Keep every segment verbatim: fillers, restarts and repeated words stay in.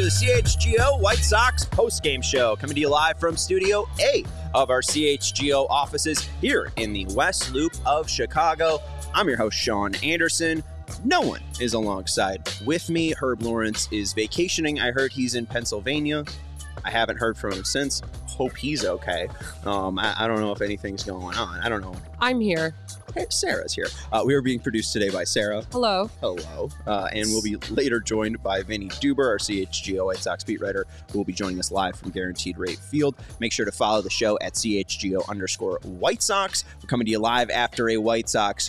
to the C H G O White Sox post-game show, coming to you live from Studio A of our C H G O offices here in the West Loop of Chicago. I'm your host, Sean Anderson. No one is alongside with me. Herb Lawrence is vacationing. I heard he's in Pennsylvania. I haven't heard from him since. Hope he's okay. Um, I, I don't know if anything's going on. I don't know. I'm here. Okay, Sarah's here. Uh, we are being produced today by Sarah. Hello. Hello. Uh, and we'll be later joined by Vinny Duber, our C H G O White Sox beat writer, who will be joining us live from Guaranteed Rate Field. Make sure to follow the show at C H G O underscore White Sox. We're coming to you live after a White Sox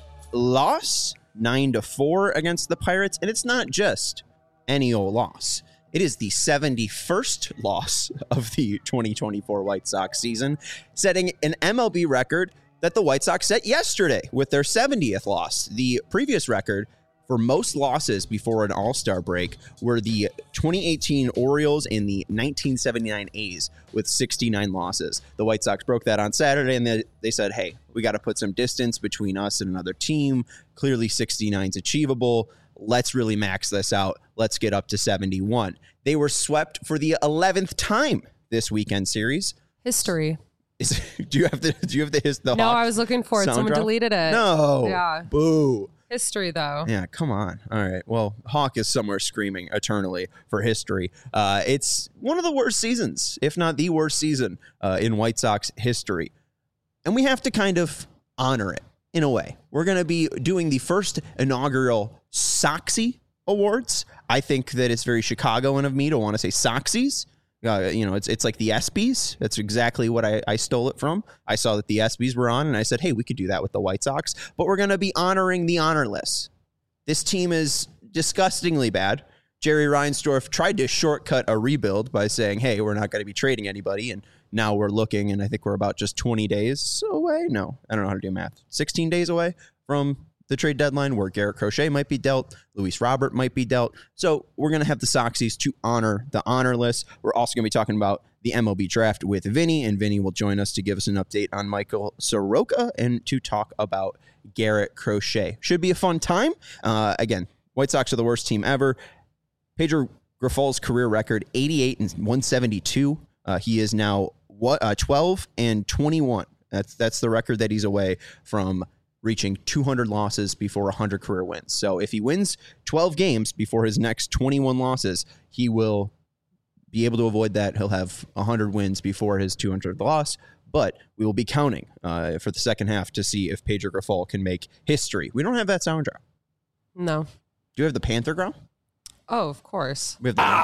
loss, nine to four against the Pirates. And it's not just any old loss. It is the seventy-first loss of the twenty twenty-four White Sox season, setting an M L B record that the White Sox set yesterday with their seventieth loss. The previous record for most losses before an All-Star break were the twenty eighteen Orioles and the nineteen seventy-nine A's with sixty-nine losses. The White Sox broke that on Saturday, and they, they said, hey, we got to put some distance between us and another team. Clearly sixty-nine is achievable. Let's really max this out. Let's get up to seventy-one. They were swept for the eleventh time this weekend series. History. Is, do you have the do you have the his the No, Hawk I was looking for it. Someone drop? deleted it. No. Yeah. Boo. History, though. Yeah, come on. All right. Well, Hawk is somewhere screaming eternally for history. Uh, it's one of the worst seasons, if not the worst season uh, in White Sox history. And we have to kind of honor it in a way. We're going to be doing the first inaugural Soxy Awards. I think that it's very Chicagoan of me to want to say Soxies. Uh, you know, it's it's like the ESPYs. That's exactly what I, I stole it from. I saw that the ESPYs were on, and I said, hey, we could do that with the White Sox. But we're going to be honoring the honorless. This team is disgustingly bad. Jerry Reinsdorf tried to shortcut a rebuild by saying, hey, we're not going to be trading anybody. And now we're looking, and I think we're about just twenty days away. No, I don't know how to do math. sixteen days away from the trade deadline where Garrett Crochet might be dealt, Luis Robert might be dealt. So we're going to have the Soxies to honor the honorless. We're also going to be talking about the M L B draft with Vinny, and Vinny will join us to give us an update on Michael Soroka and to talk about Garrett Crochet. Should be a fun time. Uh, again, White Sox are the worst team ever. Pedro Grifol's career record, eighty-eight and one seventy-two. Uh, he is now what uh, twelve and twenty-one. That's that's the record that he's away from reaching two hundred losses before one hundred career wins. So if he wins twelve games before his next twenty-one losses, he will be able to avoid that. He'll have one hundred wins before his two hundredth loss. But we will be counting uh, for the second half to see if Pedro Grifol can make history. We don't have that sound drop. No. Do you have the Panther growl? Oh, of course. We have the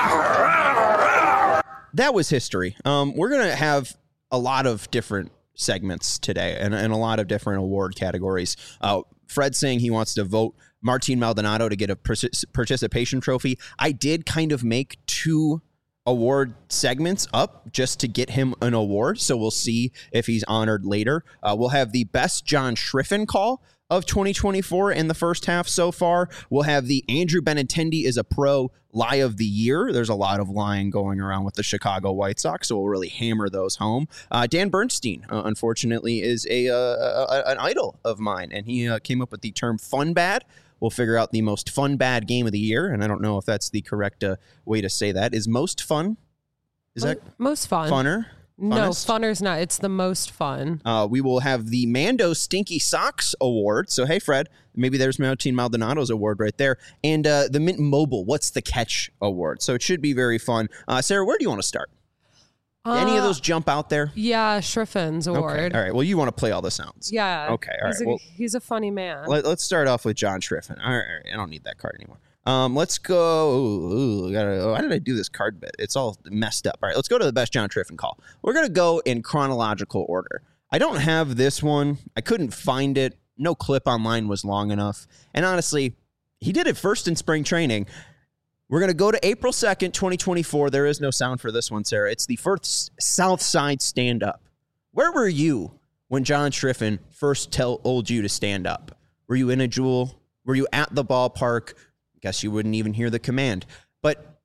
that was history. Um, we're going to have a lot of different segments today and, and a lot of different award categories. Uh, Fred saying he wants to vote Martin Maldonado to get a participation trophy. I did kind of make two award segments up just to get him an award, so we'll see if he's honored later. Uh, we'll have the best John Schriffen call of twenty twenty-four in the first half so far. We'll have the Andrew Benintendi is a pro lie of the year. There's a lot of lying going around with the Chicago White Sox, so we'll really hammer those home. Uh, Dan Bernstein, uh, unfortunately, is a, uh, a an idol of mine, and he uh, came up with the term fun bad. We'll figure out the most fun bad game of the year, and I don't know if that's the correct uh, way to say that. Is most fun? Is Mo- that most fun? Funner? No, Funnest? funner's not. It's the most fun. Uh, we will have the Mando Stinky Socks Award. So, hey, Fred, maybe there's Martin Maldonado's award right there. And uh, the Mint Mobile What's the Catch Award. So it should be very fun. Uh, Sarah, where do you want to start? Uh, Any of those jump out there? Yeah, Schriffen's award. Okay. All right. Well, you want to play all the sounds. Yeah. Okay. All he's right. A, well, he's a funny man. Let, let's start off with John Schriffen. All right, all right. I don't need that card anymore. Um, let's go. Ooh, gotta, why did I do this card bit? It's all messed up. All right, let's go to the best John Schriffen call. We're going to go in chronological order. I don't have this one. I couldn't find it. No clip online was long enough. And honestly, he did it first in spring training. We're going to go to April second, twenty twenty-four. There is no sound for this one, Sarah. It's the first South Side stand-up. Where were you when John Schriffen first told you to stand up? Were you in a Jewel? Were you at the ballpark? Guess you wouldn't even hear the command. But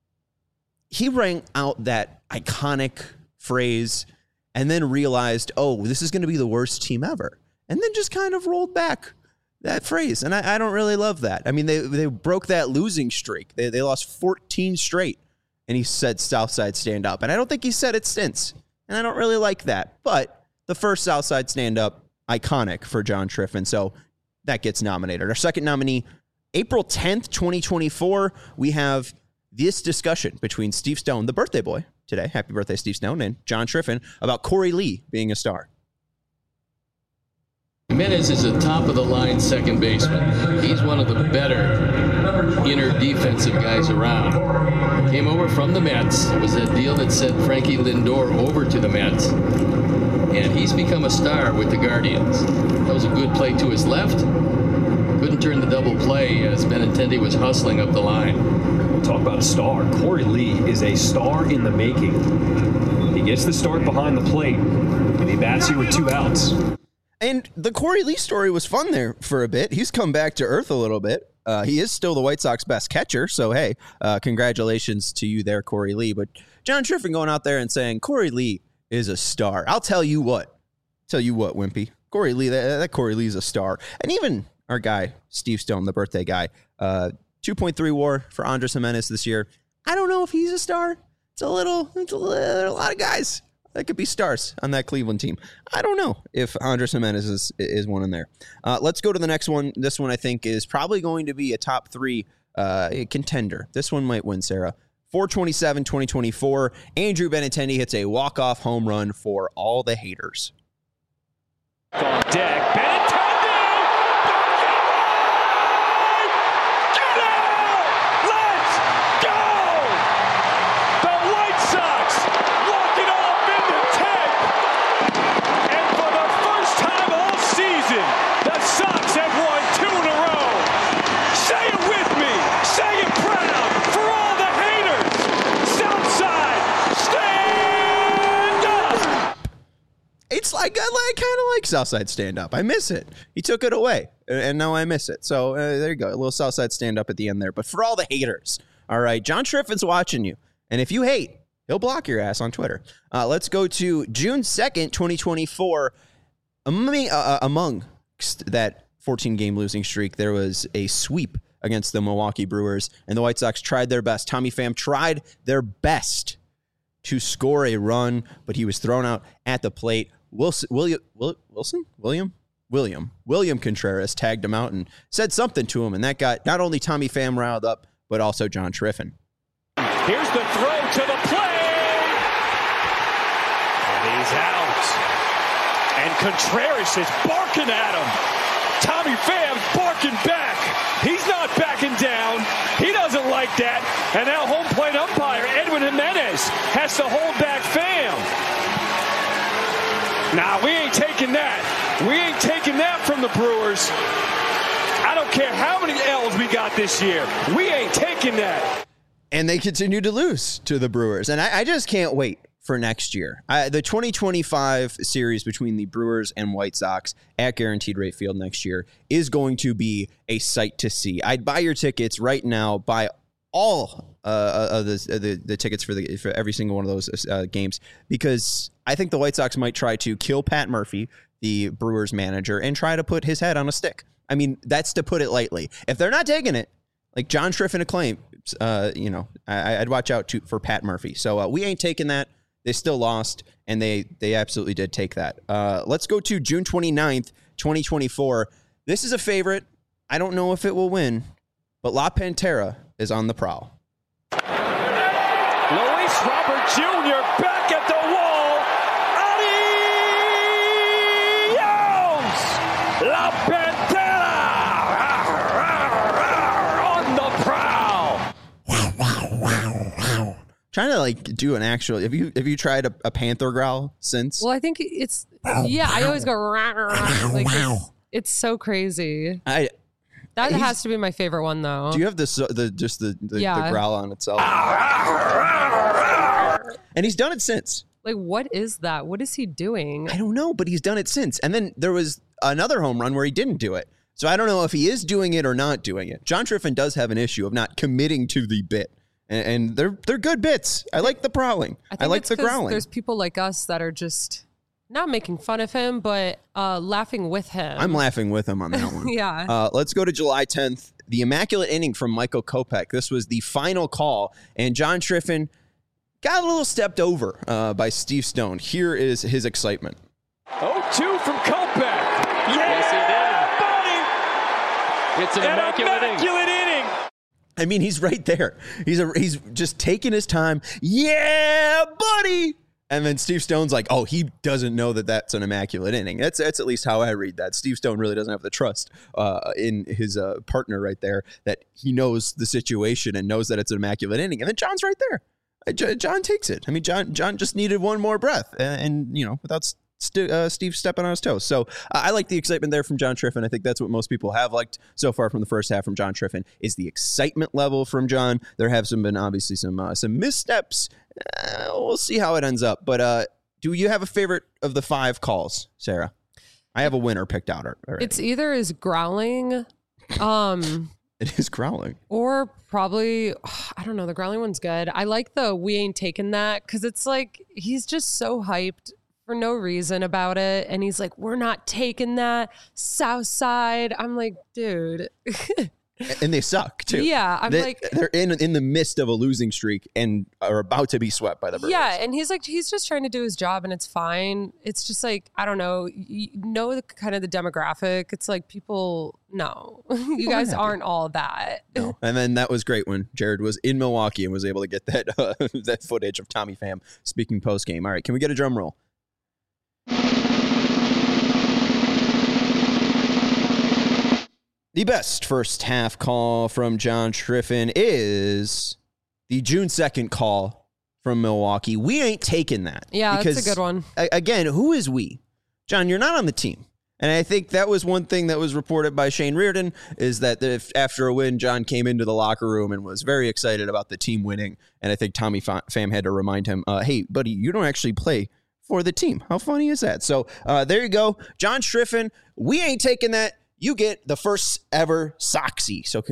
he rang out that iconic phrase and then realized, oh, this is going to be the worst team ever. And then just kind of rolled back that phrase. And I, I don't really love that. I mean, they they broke that losing streak. They, they lost fourteen straight and he said Southside stand up. And I don't think he said it since. And I don't really like that. But the first Southside stand up, iconic for John Triffin. So that gets nominated. Our second nominee, April tenth, twenty twenty-four, we have this discussion between Steve Stone, the birthday boy today, happy birthday Steve Stone, and John Triffin about Corey Lee being a star. Jimenez is a top-of-the-line second baseman. He's one of the better inner defensive guys around. Came over from the Mets. It was that deal that sent Frankie Lindor over to the Mets. And he's become a star with the Guardians. That was a good play to his left. Couldn't turn the double play as Benintendi was hustling up the line. Talk about a star. Corey Lee is a star in the making. He gets the start behind the plate, and he bats you with two outs. And the Corey Lee story was fun there for a bit. He's come back to earth a little bit. Uh, he is still the White Sox best catcher. So, hey, uh, congratulations to you there, Corey Lee. But John Triffin going out there and saying Corey Lee is a star. I'll tell you what. Tell you what, Wimpy. Corey Lee, that, that Corey Lee is a star. And even our guy, Steve Stone, the birthday guy, uh, two point three WAR for Andres Jimenez this year. I don't know if he's a star. It's a little, it's a, little, a lot of guys that could be stars on that Cleveland team. I don't know if Andres Jimenez is, is one in there. Uh, let's go to the next one. This one I think is probably going to be a top three uh, contender. This one might win, Sarah. four twenty-seven, twenty twenty-four. Andrew Benintendi hits a walk-off home run for all the haters. On deck, Benintendi! It's like, I, I kind of like Southside stand-up. I miss it. He took it away, and now I miss it. So uh, there you go. A little Southside stand-up at the end there. But for all the haters, all right, John Triffin's watching you. And if you hate, he'll block your ass on Twitter. Uh, let's go to June second, twenty twenty-four. Among, uh, among that fourteen-game losing streak, there was a sweep against the Milwaukee Brewers, and the White Sox tried their best. Tommy Pham tried their best to score a run, but he was thrown out at the plate. Wilson, William, Wilson, William, William, William Contreras tagged him out and said something to him, and that got not only Tommy Pham riled up, but also John Triffin. Here's the throw to the plate, and he's out. And Contreras is barking at him. Tommy Pham's barking back. He's not backing down. He doesn't like that. And now home plate umpire Edwin Jimenez has to hold back Pham. Nah, we ain't taking that. We ain't taking that from the Brewers. I don't care how many L's we got this year. We ain't taking that. And they continue to lose to the Brewers. And I, I just can't wait for next year. I, the twenty twenty-five series between the Brewers and White Sox at Guaranteed Rate Field next year is going to be a sight to see. I'd buy your tickets right now. Buy all uh, of the, the the tickets for the for every single one of those uh, games, because I think the White Sox might try to kill Pat Murphy, the Brewers manager, and try to put his head on a stick. I mean, that's to put it lightly. If they're not taking it, like John Triffin claimed, uh, you know, I, I'd watch out to, for Pat Murphy. So uh, we ain't taking that. They still lost, and they they absolutely did take that. Uh, let's go to June twenty-ninth, twenty twenty-four. This is a favorite. I don't know if it will win, but La Pantera is on the prowl. Luis Robert Junior back at the wall. Adios! La Pantera on the prowl. Wow, wow, wow, wow. Trying to like do an actual. Have you have you tried a, a panther growl since? Well, I think it's yeah. I always go rah, rah, rah. Like it's, it's so crazy. I. That has to be my favorite one, though. Do you have this the just the the, yeah. the growl on itself? And he's done it since. Like, what is that? What is he doing? I don't know, but he's done it since. And then there was another home run where he didn't do it. So I don't know if he is doing it or not doing it. John Triffin does have an issue of not committing to the bit. And, and they're they're good bits. I like the prowling. I, I like the growling. There's people like us that are just not making fun of him, but uh, laughing with him. I'm laughing with him on that one. Yeah. Uh, let's go to July tenth. the immaculate inning from Michael Kopech. This was the final call, and John Triffin got a little stepped over uh, by Steve Stone. Here is his excitement. oh two from Kopech. Yeah, Yes, he did. buddy. It's an An immaculate, immaculate inning. inning. I mean, he's right there. He's a, he's just taking his time. Yeah, buddy. And then Steve Stone's like, oh, he doesn't know that that's an immaculate inning. That's that's at least how I read that. Steve Stone really doesn't have the trust uh, in his uh, partner right there that he knows the situation and knows that it's an immaculate inning. And then John's right there. Uh, J- John takes it. I mean, John John just needed one more breath, and, and you know, without st- uh, Steve stepping on his toes. So uh, I like the excitement there from John Triffin. I think that's what most people have liked so far from the first half from John Triffin is the excitement level from John. There have some been obviously some uh, some missteps. Uh, we'll see how it ends up. But uh, do you have a favorite of the five calls, Sarah? I have a winner picked out already. It's either is growling, um, It is growling. or probably, I don't know, the growling one's good. I like the we ain't taking that because it's like he's just so hyped for no reason about it. And he's like, we're not taking that South Side. I'm like, dude. And they suck too. Yeah, I'm they, like, they're in in the midst of a losing streak and are about to be swept by the Brewers. yeah, and he's like, he's just trying to do his job, and it's fine. It's just like, I don't know, you know, the kind of the demographic. It's like people, no, you guys happy. aren't all that. No. And then that was great when Jared was in Milwaukee and was able to get that uh, that footage of Tommy Pham speaking post game. All right, can we get a drum roll? The best first half call from John Triffin is the June second call from Milwaukee. We ain't taking that. Yeah, because, that's a good one. a- Again, who is we? John, you're not on the team. And I think that was one thing that was reported by Shane Reardon is that if, after a win, John came into the locker room and was very excited about the team winning. And I think Tommy Pham had to remind him, uh, hey, buddy, you don't actually play for the team. How funny is that? So uh, there you go. John Triffin, we ain't taking that. You get the first ever Soxy. So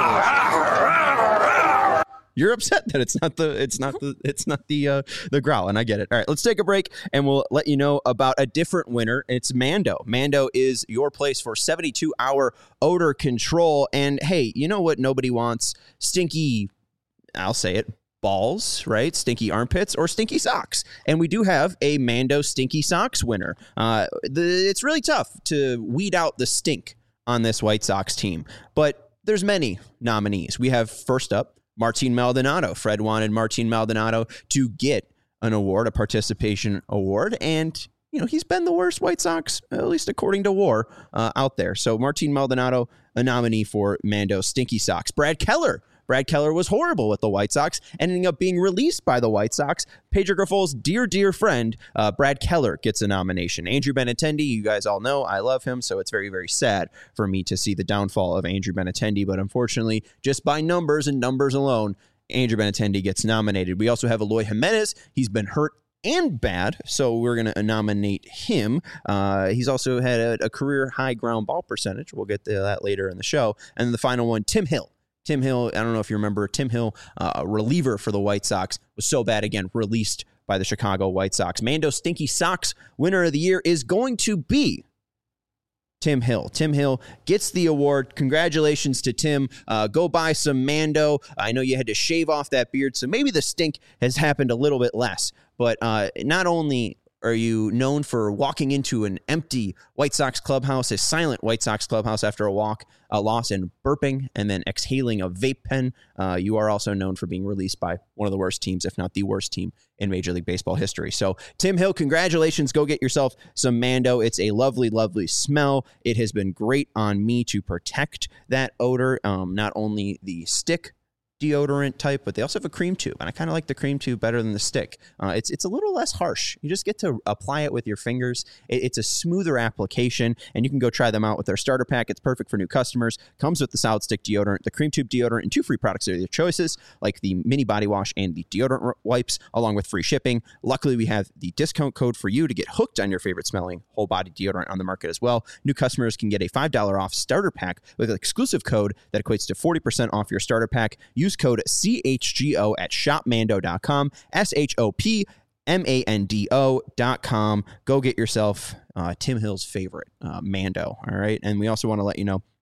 congratulations. You're upset that it's not the it's not the it's not the uh, the growl, and I get it. All right, let's take a break, and we'll let you know about a different winner. It's Mando. Mando is your place for seventy-two hour odor control. And hey, you know what? Nobody wants stinky. I'll say it. Balls, right? Stinky armpits or stinky socks. And we do have a Mando Stinky Socks winner. Uh, the, it's really tough to weed out the stink on this White Sox team, but there's many nominees. We have first up, Martin Maldonado. Fred wanted Martin Maldonado to get an award, a participation award, and you know, he's been the worst White Sox, at least according to WAR, uh, out there. So Martin Maldonado, a nominee for Mando Stinky Socks. Brad Keller. Brad Keller was horrible with the White Sox, ending up being released by the White Sox. Pedro Griffol's dear, dear friend, uh, Brad Keller, gets a nomination. Andrew Benintendi, you guys all know I love him, so it's very, very sad for me to see the downfall of Andrew Benintendi. But unfortunately, just by numbers and numbers alone, Andrew Benintendi gets nominated. We also have Eloy Jimenez. He's been hurt and bad, so we're going to nominate him. Uh, he's also had a, a career high ground ball percentage. We'll get to that later in the show. And then the final one, Tim Hill. Tim Hill, I don't know if you remember, Tim Hill, uh, a reliever for the White Sox, was so bad, again, released by the Chicago White Sox. Mando Stinky Socks winner of the year is going to be Tim Hill. Tim Hill gets the award. Congratulations to Tim. Uh, go buy some Mando. I know you had to shave off that beard, so maybe the stink has happened a little bit less. But uh, not only are you known for walking into an empty White Sox clubhouse, a silent White Sox clubhouse after a walk, a loss, and burping and then exhaling a vape pen, uh, you are also known for being released by one of the worst teams, if not the worst team in Major League Baseball history. So Tim Hill, congratulations. Go get yourself some Mando. It's a lovely, lovely smell. It has been great on me to protect that odor, um, not only the stick deodorant type, but they also have a cream tube, and I kind of like the cream tube better than the stick. Uh, it's it's a little less harsh. You just get to apply it with your fingers. It, it's a smoother application, and you can go try them out with their starter pack. It's perfect for new customers. Comes with the solid stick deodorant, the cream tube deodorant, and two free products of your choices, like the mini body wash and the deodorant wipes, along with free shipping. Luckily, we have the discount code for you to get hooked on your favorite smelling whole body deodorant on the market as well. New customers can get a five dollars off starter pack with an exclusive code that equates to forty percent off your starter pack. Use code C H G O at shop mando dot com, S H O P M A N D O dot com. Go get yourself uh, Tim Hill's favorite, uh, Mando, all right? And we also want to let you know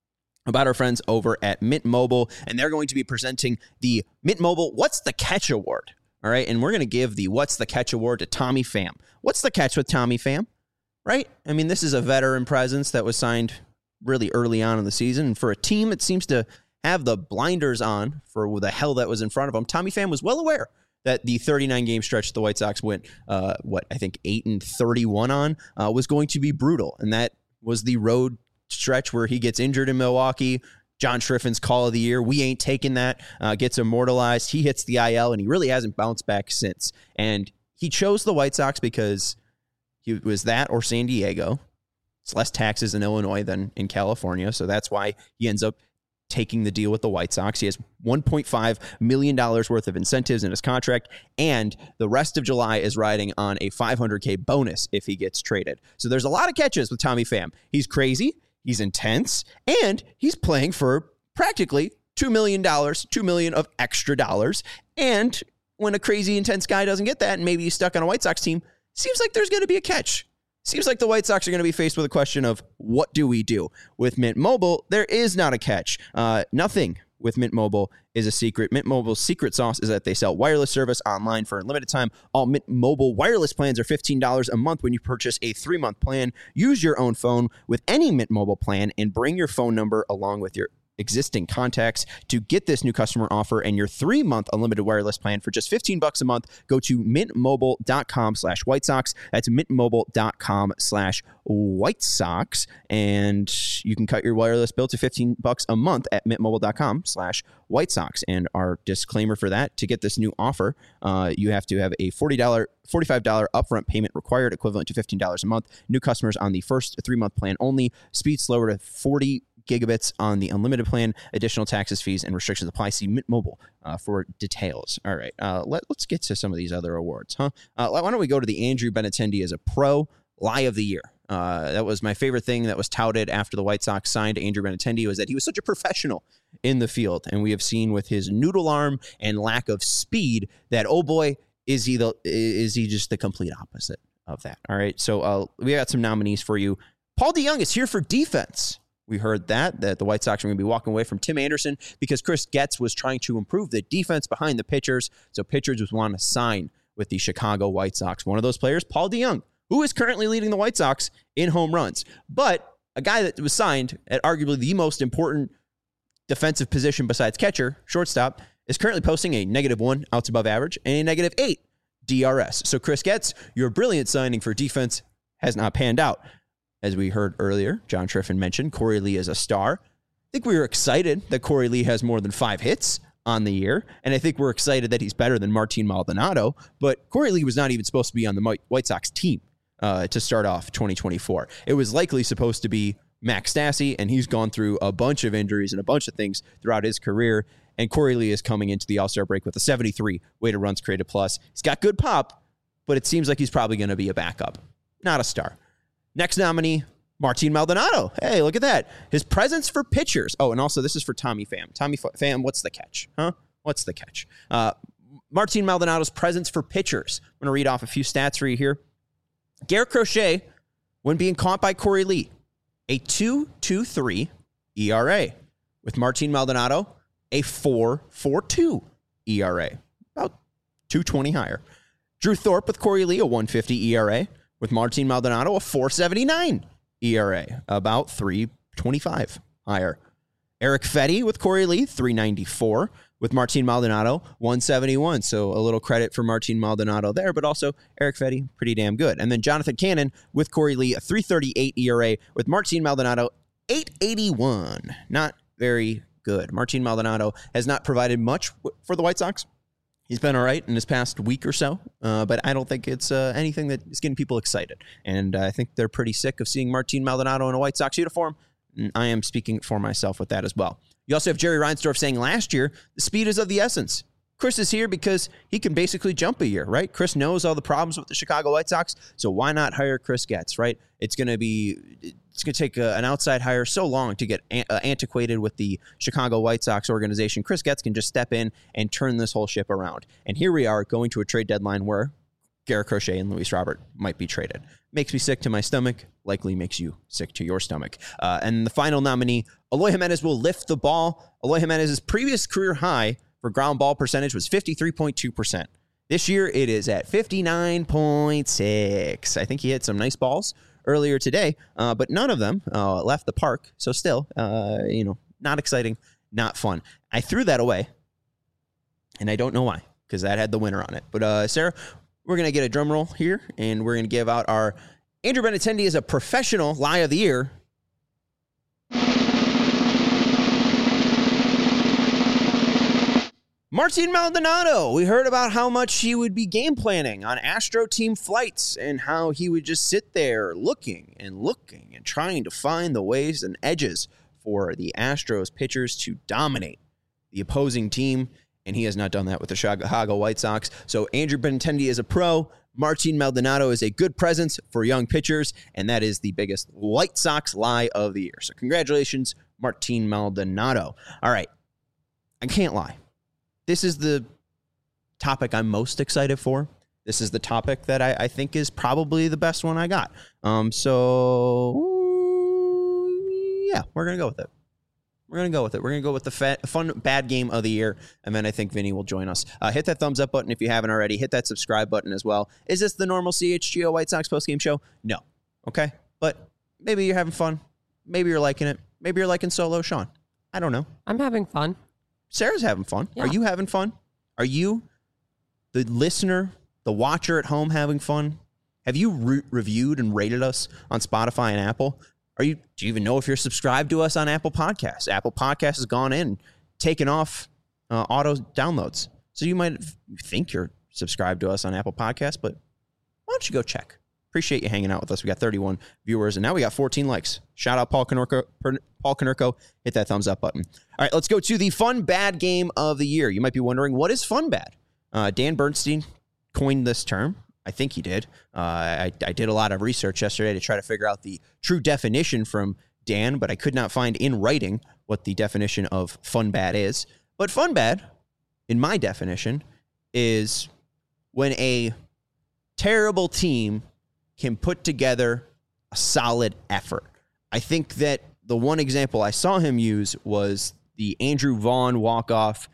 about our friends over at Mint Mobile, and they're going to be presenting the Mint Mobile What's the Catch Award. All right, and we're going to give the What's the Catch Award to Tommy Pham. What's the catch with Tommy Pham, right? I mean, this is a veteran presence that was signed really early on in the season, and for a team that seems to have the blinders on for the hell that was in front of them, Tommy Pham was well aware that the thirty-nine game stretch the White Sox went, uh, what, I think eight and thirty-one on, uh, was going to be brutal. And that was the road stretch where he gets injured in Milwaukee. John Schriffin's call of the year. We ain't taking that. Uh, gets immortalized. He hits the I L, and he really hasn't bounced back since. And he chose the White Sox because he was that or San Diego. It's less taxes in Illinois than in California, so that's why he ends up taking the deal with the White Sox. He has one point five million dollars worth of incentives in his contract, and the rest of July is riding on a five hundred K bonus if he gets traded. So there's a lot of catches with Tommy Pham. He's crazy, he's intense, and he's playing for practically two million dollars, two million dollars of extra dollars. And when a crazy intense guy doesn't get that and maybe he's stuck on a White Sox team, seems like there's going to be a catch. Seems like the White Sox are going to be faced with a question of what do we do? With Mint Mobile, there is not a catch. Uh, nothing with Mint Mobile is a secret. Mint Mobile's secret sauce is that they sell wireless service online for a limited time. All Mint Mobile wireless plans are fifteen dollars a month when you purchase a three-month plan. Use your own phone with any Mint Mobile plan and bring your phone number along with your existing contacts to get this new customer offer and your three-month unlimited wireless plan for just fifteen bucks a month. Go to mintmobile.com slash White Sox. That's mintmobile.com slash White Sox. And you can cut your wireless bill to fifteen bucks a month at mintmobile.com slash White Sox. And our disclaimer for that, to get this new offer, uh, you have to have a forty dollars, forty-five dollars upfront payment required, equivalent to fifteen dollars a month. New customers on the first three-month plan only. Speed slower to forty gigabits on the unlimited plan. Additional taxes, fees, and restrictions apply. See Mint Mobile uh, for details. All right, uh, let, let's get to some of these other awards, huh? Uh, why don't we go to the Andrew Benintendi as a pro lie of the year? Uh, that was my favorite thing that was touted after the White Sox signed Andrew Benintendi, was that he was such a professional in the field. And we have seen with his noodle arm and lack of speed that, oh boy, is he the is he just the complete opposite of that? All right, so uh, we got some nominees for you. Paul DeJong is here for defense. We heard that, that the White Sox are going to be walking away from Tim Anderson because Chris Getz was trying to improve the defense behind the pitchers. So pitchers would want to sign with the Chicago White Sox. One of those players, Paul DeJong, who is currently leading the White Sox in home runs. But a guy that was signed at arguably the most important defensive position besides catcher, shortstop, is currently posting a negative one outs above average and a negative eight D R S. So Chris Getz, your brilliant signing for defense has not panned out. As we heard earlier, John Schriffen mentioned Corey Lee is a star. I think we were excited that Corey Lee has more than five hits on the year, and I think we're excited that he's better than Martin Maldonado, but Corey Lee was not even supposed to be on the White Sox team uh, to start off twenty twenty-four. It was likely supposed to be Max Stassi, and he's gone through a bunch of injuries and a bunch of things throughout his career, and Corey Lee is coming into the All-Star break with a seventy-three weighted runs created plus. He's got good pop, but it seems like he's probably going to be a backup, not a star. Next nominee, Martin Maldonado. Hey, look at that. His presence for pitchers. Oh, and also this is for Tommy Pham. Tommy Pham, what's the catch? Huh? What's the catch? Uh, Martin Maldonado's presence for pitchers. I'm going to read off a few stats for you here. Garrett Crochet, when being caught by Corey Lee, a two point two three E R A. With Martin Maldonado, a four point four two E R A. About two twenty higher. Drew Thorpe with Corey Lee, a one fifty E R A. With Martin Maldonado, a four seventy-nine E R A, about three twenty-five higher. Eric Fetty with Corey Lee, three ninety-four. With Martin Maldonado, one seventy-one. So a little credit for Martin Maldonado there, but also Eric Fetty, pretty damn good. And then Jonathan Cannon with Corey Lee, a three thirty-eight E R A. With Martin Maldonado, eight eighty-one. Not very good. Martin Maldonado has not provided much for the White Sox. He's been all right in this past week or so, uh, but I don't think it's uh, anything that is getting people excited. And uh, I think they're pretty sick of seeing Martin Maldonado in a White Sox uniform. And I am speaking for myself with that as well. You also have Jerry Reinsdorf saying last year, the speed is of the essence. Chris is here because he can basically jump a year, right? Chris knows all the problems with the Chicago White Sox, so why not hire Chris Getz, right? It's going to be, it's going to take a, an outside hire so long to get an, uh, antiquated with the Chicago White Sox organization. Chris Getz can just step in and turn this whole ship around. And here we are going to a trade deadline where Garrett Crochet and Luis Robert might be traded. Makes me sick to my stomach, likely makes you sick to your stomach. Uh, and the final nominee, Eloy Jimenez will lift the ball. Eloy Jimenez's previous career high for ground ball percentage was fifty-three point two percent. This year, it is at fifty-nine point six. I think he hit some nice balls earlier today, uh, but none of them uh, left the park. So still, uh, you know, not exciting, not fun. I threw that away, and I don't know why, because that had the winner on it. But uh, Sarah, we're going to get a drum roll here, and we're going to give out our Andrew Benintendi as a professional lie of the year. Martin Maldonado. We heard about how much he would be game planning on Astro team flights and how he would just sit there looking and looking and trying to find the ways and edges for the Astros pitchers to dominate the opposing team. And he has not done that with the Chicago White Sox. So Andrew Benintendi is a pro. Martin Maldonado is a good presence for young pitchers. And that is the biggest White Sox lie of the year. So congratulations, Martin Maldonado. All right. I can't lie. This is the topic I'm most excited for. This is the topic that I, I think is probably the best one I got. Um, so, yeah, we're going to go with it. We're going to go with it. We're going to go with the fa- fun, bad game of the year, and then I think Vinny will join us. Uh, hit that thumbs up button if you haven't already. Hit that subscribe button as well. Is this the normal C H G O White Sox postgame show? No. Okay? But maybe you're having fun. Maybe you're liking it. Maybe you're liking Solo Sean. I don't know. I'm having fun. Sarah's having fun. Yeah. Are you having fun? Are you, the listener, the watcher at home, having fun? Have you re- reviewed and rated us on Spotify and Apple? Are you? Do you even know if you're subscribed to us on Apple Podcasts? Apple Podcasts has gone in, taken off uh, auto downloads. So you might think you're subscribed to us on Apple Podcasts, but why don't you go check? Appreciate you hanging out with us. We got thirty-one viewers, and now we got fourteen likes. Shout out Paul Konerko. Paul Konerko. Hit that thumbs up button. All right, let's go to the fun bad game of the year. You might be wondering, what is fun bad? Uh, Dan Bernstein coined this term. I think he did. Uh, I, I did a lot of research yesterday to try to figure out the true definition from Dan, but I could not find in writing what the definition of fun bad is. But fun bad, in my definition, is when a terrible team can put together a solid effort. I think that the one example I saw him use was the Andrew Vaughn walk-off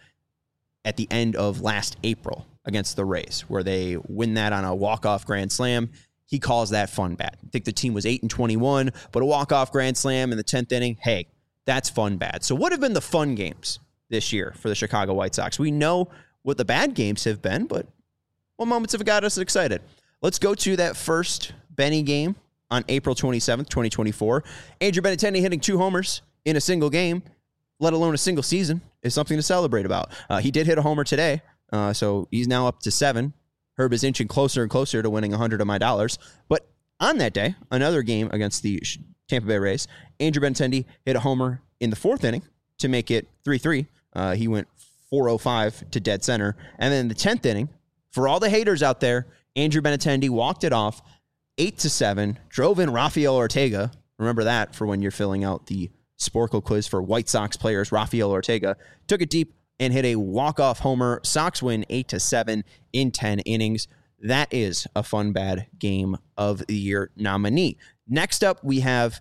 at the end of last April against the Rays, where they win that on a walk-off grand slam. He calls that fun bad. I think the team was eight and twenty-one, but a walk-off grand slam in the tenth inning, hey, that's fun bad. So what have been the fun games this year for the Chicago White Sox? We know what the bad games have been, but what moments have got us excited? Let's go to that first Benny game on April twenty-seventh, twenty twenty-four. Andrew Benintendi hitting two homers in a single game, let alone a single season, is something to celebrate about. Uh, he did hit a homer today, uh, so he's now up to seven. Herb is inching closer and closer to winning one hundred of my dollars. But on that day, another game against the Tampa Bay Rays, Andrew Benintendi hit a homer in the fourth inning to make it three three. Uh, he went four oh five to dead center. And then in the tenth inning, for all the haters out there, Andrew Benintendi walked it off eight to seven, drove in Rafael Ortega. Remember that for when you're filling out the Sporkle quiz for White Sox players. Rafael Ortega took it deep and hit a walk-off homer. Sox win eight to seven in ten innings. That is a fun bad game of the year nominee. Next up, we have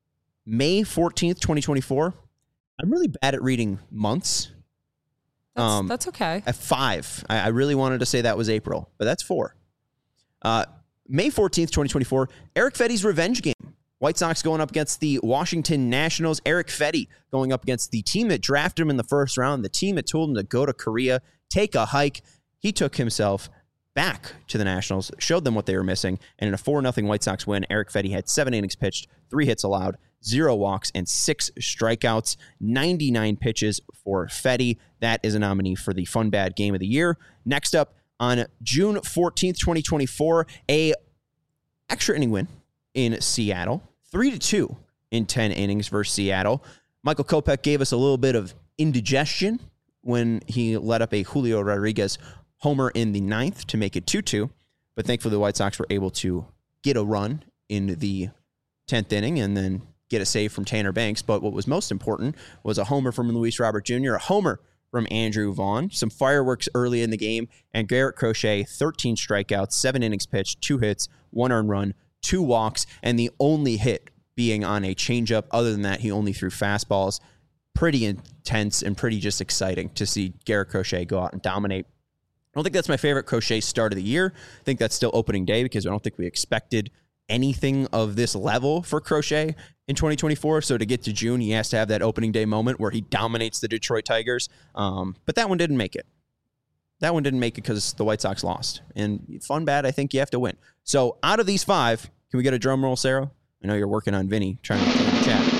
May fourteenth, twenty twenty-four. I'm really bad at reading months. That's, um, that's okay. At five. I, I really wanted to say that was April, but that's four. Uh, May fourteenth, twenty twenty-four, Erick Fedde's revenge game. White Sox going up against the Washington Nationals. Erick Fedde going up against the team that drafted him in the first round, the team that told him to go to Korea, take a hike. He took himself back to the Nationals, showed them what they were missing, and in a four nothing White Sox win, Erick Fedde had seven innings pitched, three hits allowed, zero walks, and six strikeouts, ninety-nine pitches for Fedde. That is a nominee for the Fun Bad Game of the Year. Next up, on June fourteenth, twenty twenty-four, a extra inning win in Seattle, three to two in ten innings versus Seattle. Michael Kopech gave us a little bit of indigestion when he let up a Julio Rodriguez homer in the ninth to make it two two, but thankfully the White Sox were able to get a run in the tenth inning and then get a save from Tanner Banks. But what was most important was a homer from Luis Robert Junior, a homer from Andrew Vaughn, some fireworks early in the game, and Garrett Crochet, thirteen strikeouts, seven innings pitched, two hits, one earned run, two walks, and the only hit being on a changeup. Other than that, he only threw fastballs. Pretty intense and pretty just exciting to see Garrett Crochet go out and dominate. I don't think that's my favorite Crochet start of the year. I think that's still opening day because I don't think we expected anything of this level for Crochet in twenty twenty-four. So to get to June, he has to have that opening day moment where he dominates the Detroit Tigers. Um, but that one didn't make it. That one didn't make it because the White Sox lost. And fun bad, I think you have to win. So out of these five, can we get a drum roll, Sarah? I know you're working on Vinny, trying to get in the chat.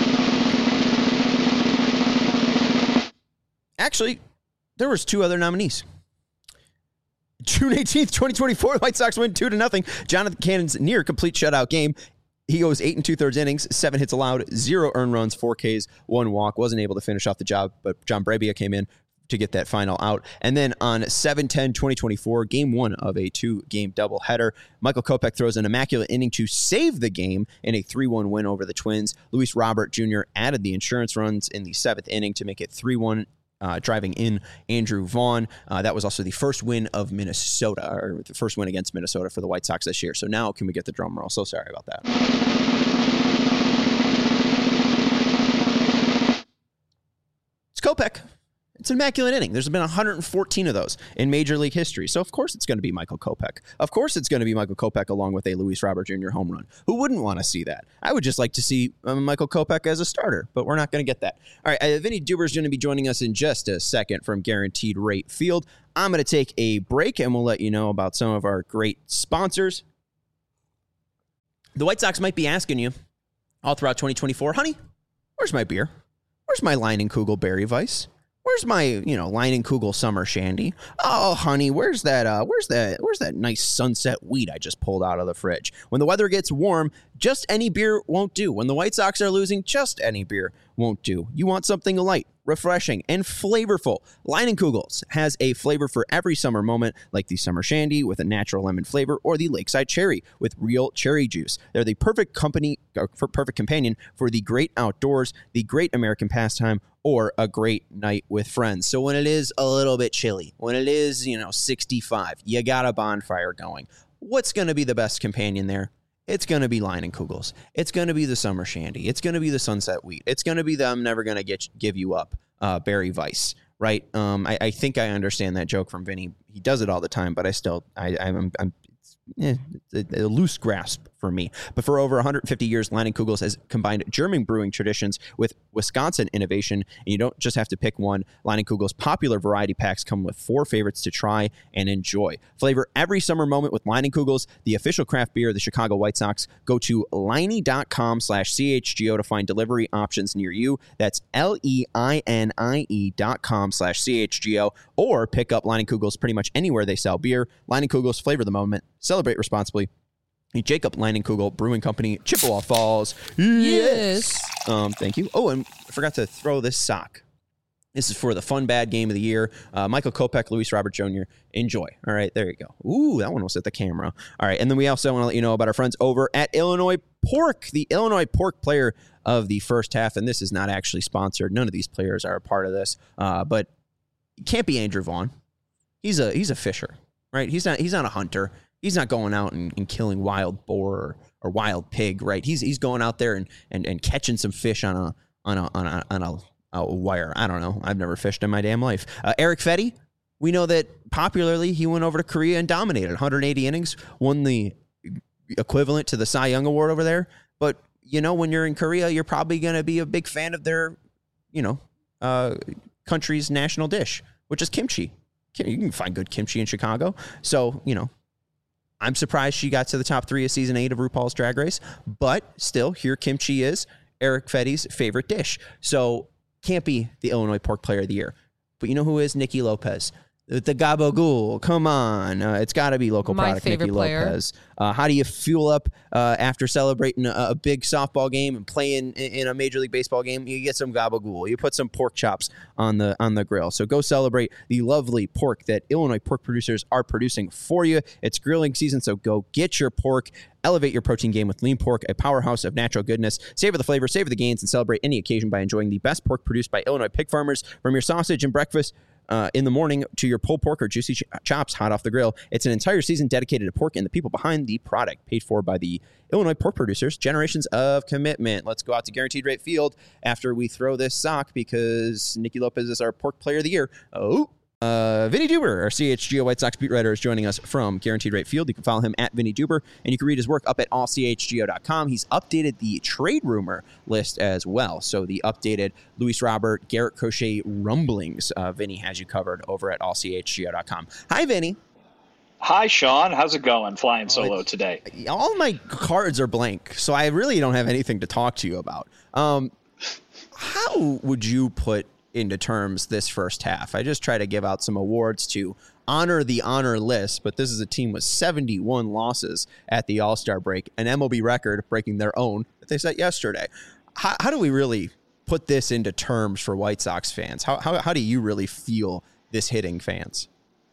Actually, there was two other nominees. June eighteenth, twenty twenty-four, the White Sox win two to nothing. Jonathan Cannon's near complete shutout game. He goes eight and two-thirds innings, seven hits allowed, zero earned runs, four Ks, one walk. Wasn't able to finish off the job, but John Brebbia came in to get that final out. And then on seven ten twenty twenty-four, game one of a two-game doubleheader, Michael Kopech throws an immaculate inning to save the game in a three one win over the Twins. Luis Robert Junior added the insurance runs in the seventh inning to make it three one. Uh, driving in Andrew Vaughn. Uh, that was also the first win of Minnesota, or the first win against Minnesota for the White Sox this year. So now can we get the drum roll? So sorry about that. It's Kopech. It's an immaculate inning. There's been one hundred fourteen of those in Major League history. So, of course, it's going to be Michael Kopech. Of course, it's going to be Michael Kopech along with a Luis Robert Junior home run. Who wouldn't want to see that? I would just like to see um, Michael Kopech as a starter, but we're not going to get that. All right, uh, Vinny Duber is going to be joining us in just a second from Guaranteed Rate Field. I'm going to take a break, and we'll let you know about some of our great sponsors. The White Sox might be asking you all throughout twenty twenty-four, honey, where's my beer? Where's my Leinenkugel Berry Weiss? Where's my, you know, Leinenkugel Summer Shandy? Oh, honey, where's that, uh, where's that, where's that nice sunset wheat I just pulled out of the fridge? When the weather gets warm, just any beer won't do. When the White Sox are losing, just any beer won't do. You want something light, refreshing, and flavorful. Leinenkugels has a flavor for every summer moment, like the Summer Shandy with a natural lemon flavor or the Lakeside Cherry with real cherry juice. They're the perfect company, or perfect companion for the great outdoors, the great American pastime, or a great night with friends. So when it is a little bit chilly, when it is, you know, sixty-five, you got a bonfire going. What's going to be the best companion there? It's going to be Leinenkugels. It's going to be the Summer Shandy. It's going to be the Sunset Wheat. It's going to be the I'm never going to get give you up uh, Berry Weiss, right? Um, I, I think I understand that joke from Vinny. He does it all the time, but I still, I, I'm, I'm Eh, a, a loose grasp for me. But for over one hundred fifty years, Leinenkugels has combined German brewing traditions with Wisconsin innovation, and you don't just have to pick one. Leinenkugels' popular variety packs come with four favorites to try and enjoy. Flavor every summer moment with Leinenkugels, the official craft beer of the Chicago White Sox. Go to Leine.com slash CHGO to find delivery options near you. That's L-E-I-N-I-E dot com slash CHGO, or pick up Leinenkugels pretty much anywhere they sell beer. Leinenkugels, flavor the moment. Celebrate responsibly. Jacob Leinenkugel Brewing Company, Chippewa Falls. Yes. Um, thank you. Oh, and I forgot to throw this sock. This is for the fun bad game of the year. Uh, Michael Kopech, Luis Robert Junior Enjoy. All right, there you go. Ooh, that one was at the camera. All right, and then we also want to let you know about our friends over at Illinois Pork, the Illinois Pork player of the first half. And this is not actually sponsored. None of these players are a part of this. Uh, but it can't be Andrew Vaughn. He's a he's a fisher, right? He's not he's not a hunter. He's not going out and, and killing wild boar or, or wild pig, right? He's he's going out there and, and, and catching some fish on a on a on a on a, a wire. I don't know. I've never fished in my damn life. Uh, Eric Fetty, we know that popularly he went over to Korea and dominated one hundred eighty innings, won the equivalent to the Cy Young Award over there. But you know, when you're in Korea, you're probably going to be a big fan of their, you know, uh, country's national dish, which is kimchi. You can find good kimchi in Chicago. So, you know, I'm surprised she got to the top three of season eight of RuPaul's Drag Race, but still, here kimchi is Eric Fetty's favorite dish. So can't be the Illinois Pork Player of the Year. But you know who is? Nikki Lopez. The Gabagool, come on. Uh, it's got to be local My product, Nikki player. Lopez. Uh, how do you fuel up uh, after celebrating a, a big softball game and playing in, in a Major League Baseball game? You get some Gabagool. You put some pork chops on the on the grill. So go celebrate the lovely pork that Illinois pork producers are producing for you. It's grilling season, so go get your pork. Elevate your protein game with Lean Pork, a powerhouse of natural goodness. Savor the flavor, savor the gains, and celebrate any occasion by enjoying the best pork produced by Illinois pig farmers. From your sausage and breakfast uh, in the morning to your pulled pork or juicy ch- chops hot off the grill. It's an entire season dedicated to pork and the people behind the product, paid for by the Illinois pork producers. Generations of commitment. Let's go out to Guaranteed Rate Field after we throw this sock because Nicky Lopez is our pork player of the year. Oh, Uh, Vinny Duber, our C H G O White Sox beat writer, is joining us from Guaranteed Rate Field. You can follow him at Vinny Duber, and you can read his work up at all c h g o dot com. He's updated the trade rumor list as well. So the updated Luis Robert, Garrett Crochet rumblings, uh, Vinny has you covered over at all c h g o dot com. Hi, Vinny. Hi, Sean. How's it going flying solo oh, today? All my cards are blank, so I really don't have anything to talk to you about. Um, how would you put into terms this first half? I just try to give out some awards to honor the honor list, but this is a team with seventy-one losses at the All-Star break, an M L B record breaking their own that they set yesterday. How, how do we really put this into terms for White Sox fans? How, how, how do you really feel this hitting fans?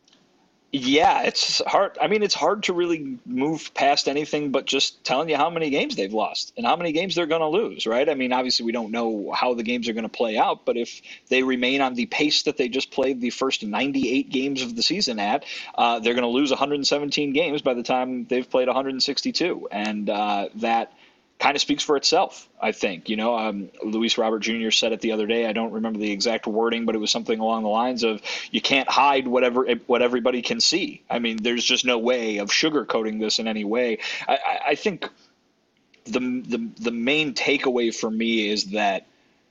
Yeah, it's hard. I mean, it's hard to really move past anything but just telling you how many games they've lost and how many games they're going to lose, right? I mean, obviously we don't know how the games are going to play out, but if they remain on the pace that they just played the first ninety-eight games of the season at, uh, they're going to lose one hundred seventeen games by the time they've played one hundred sixty-two. And uh, that kind of speaks for itself, I think. You know, um, Luis Robert Junior said it the other day. I don't remember the exact wording, but it was something along the lines of, you can't hide whatever what everybody can see. I mean, there's just no way of sugarcoating this in any way. I, I, I think the, the the main takeaway for me is that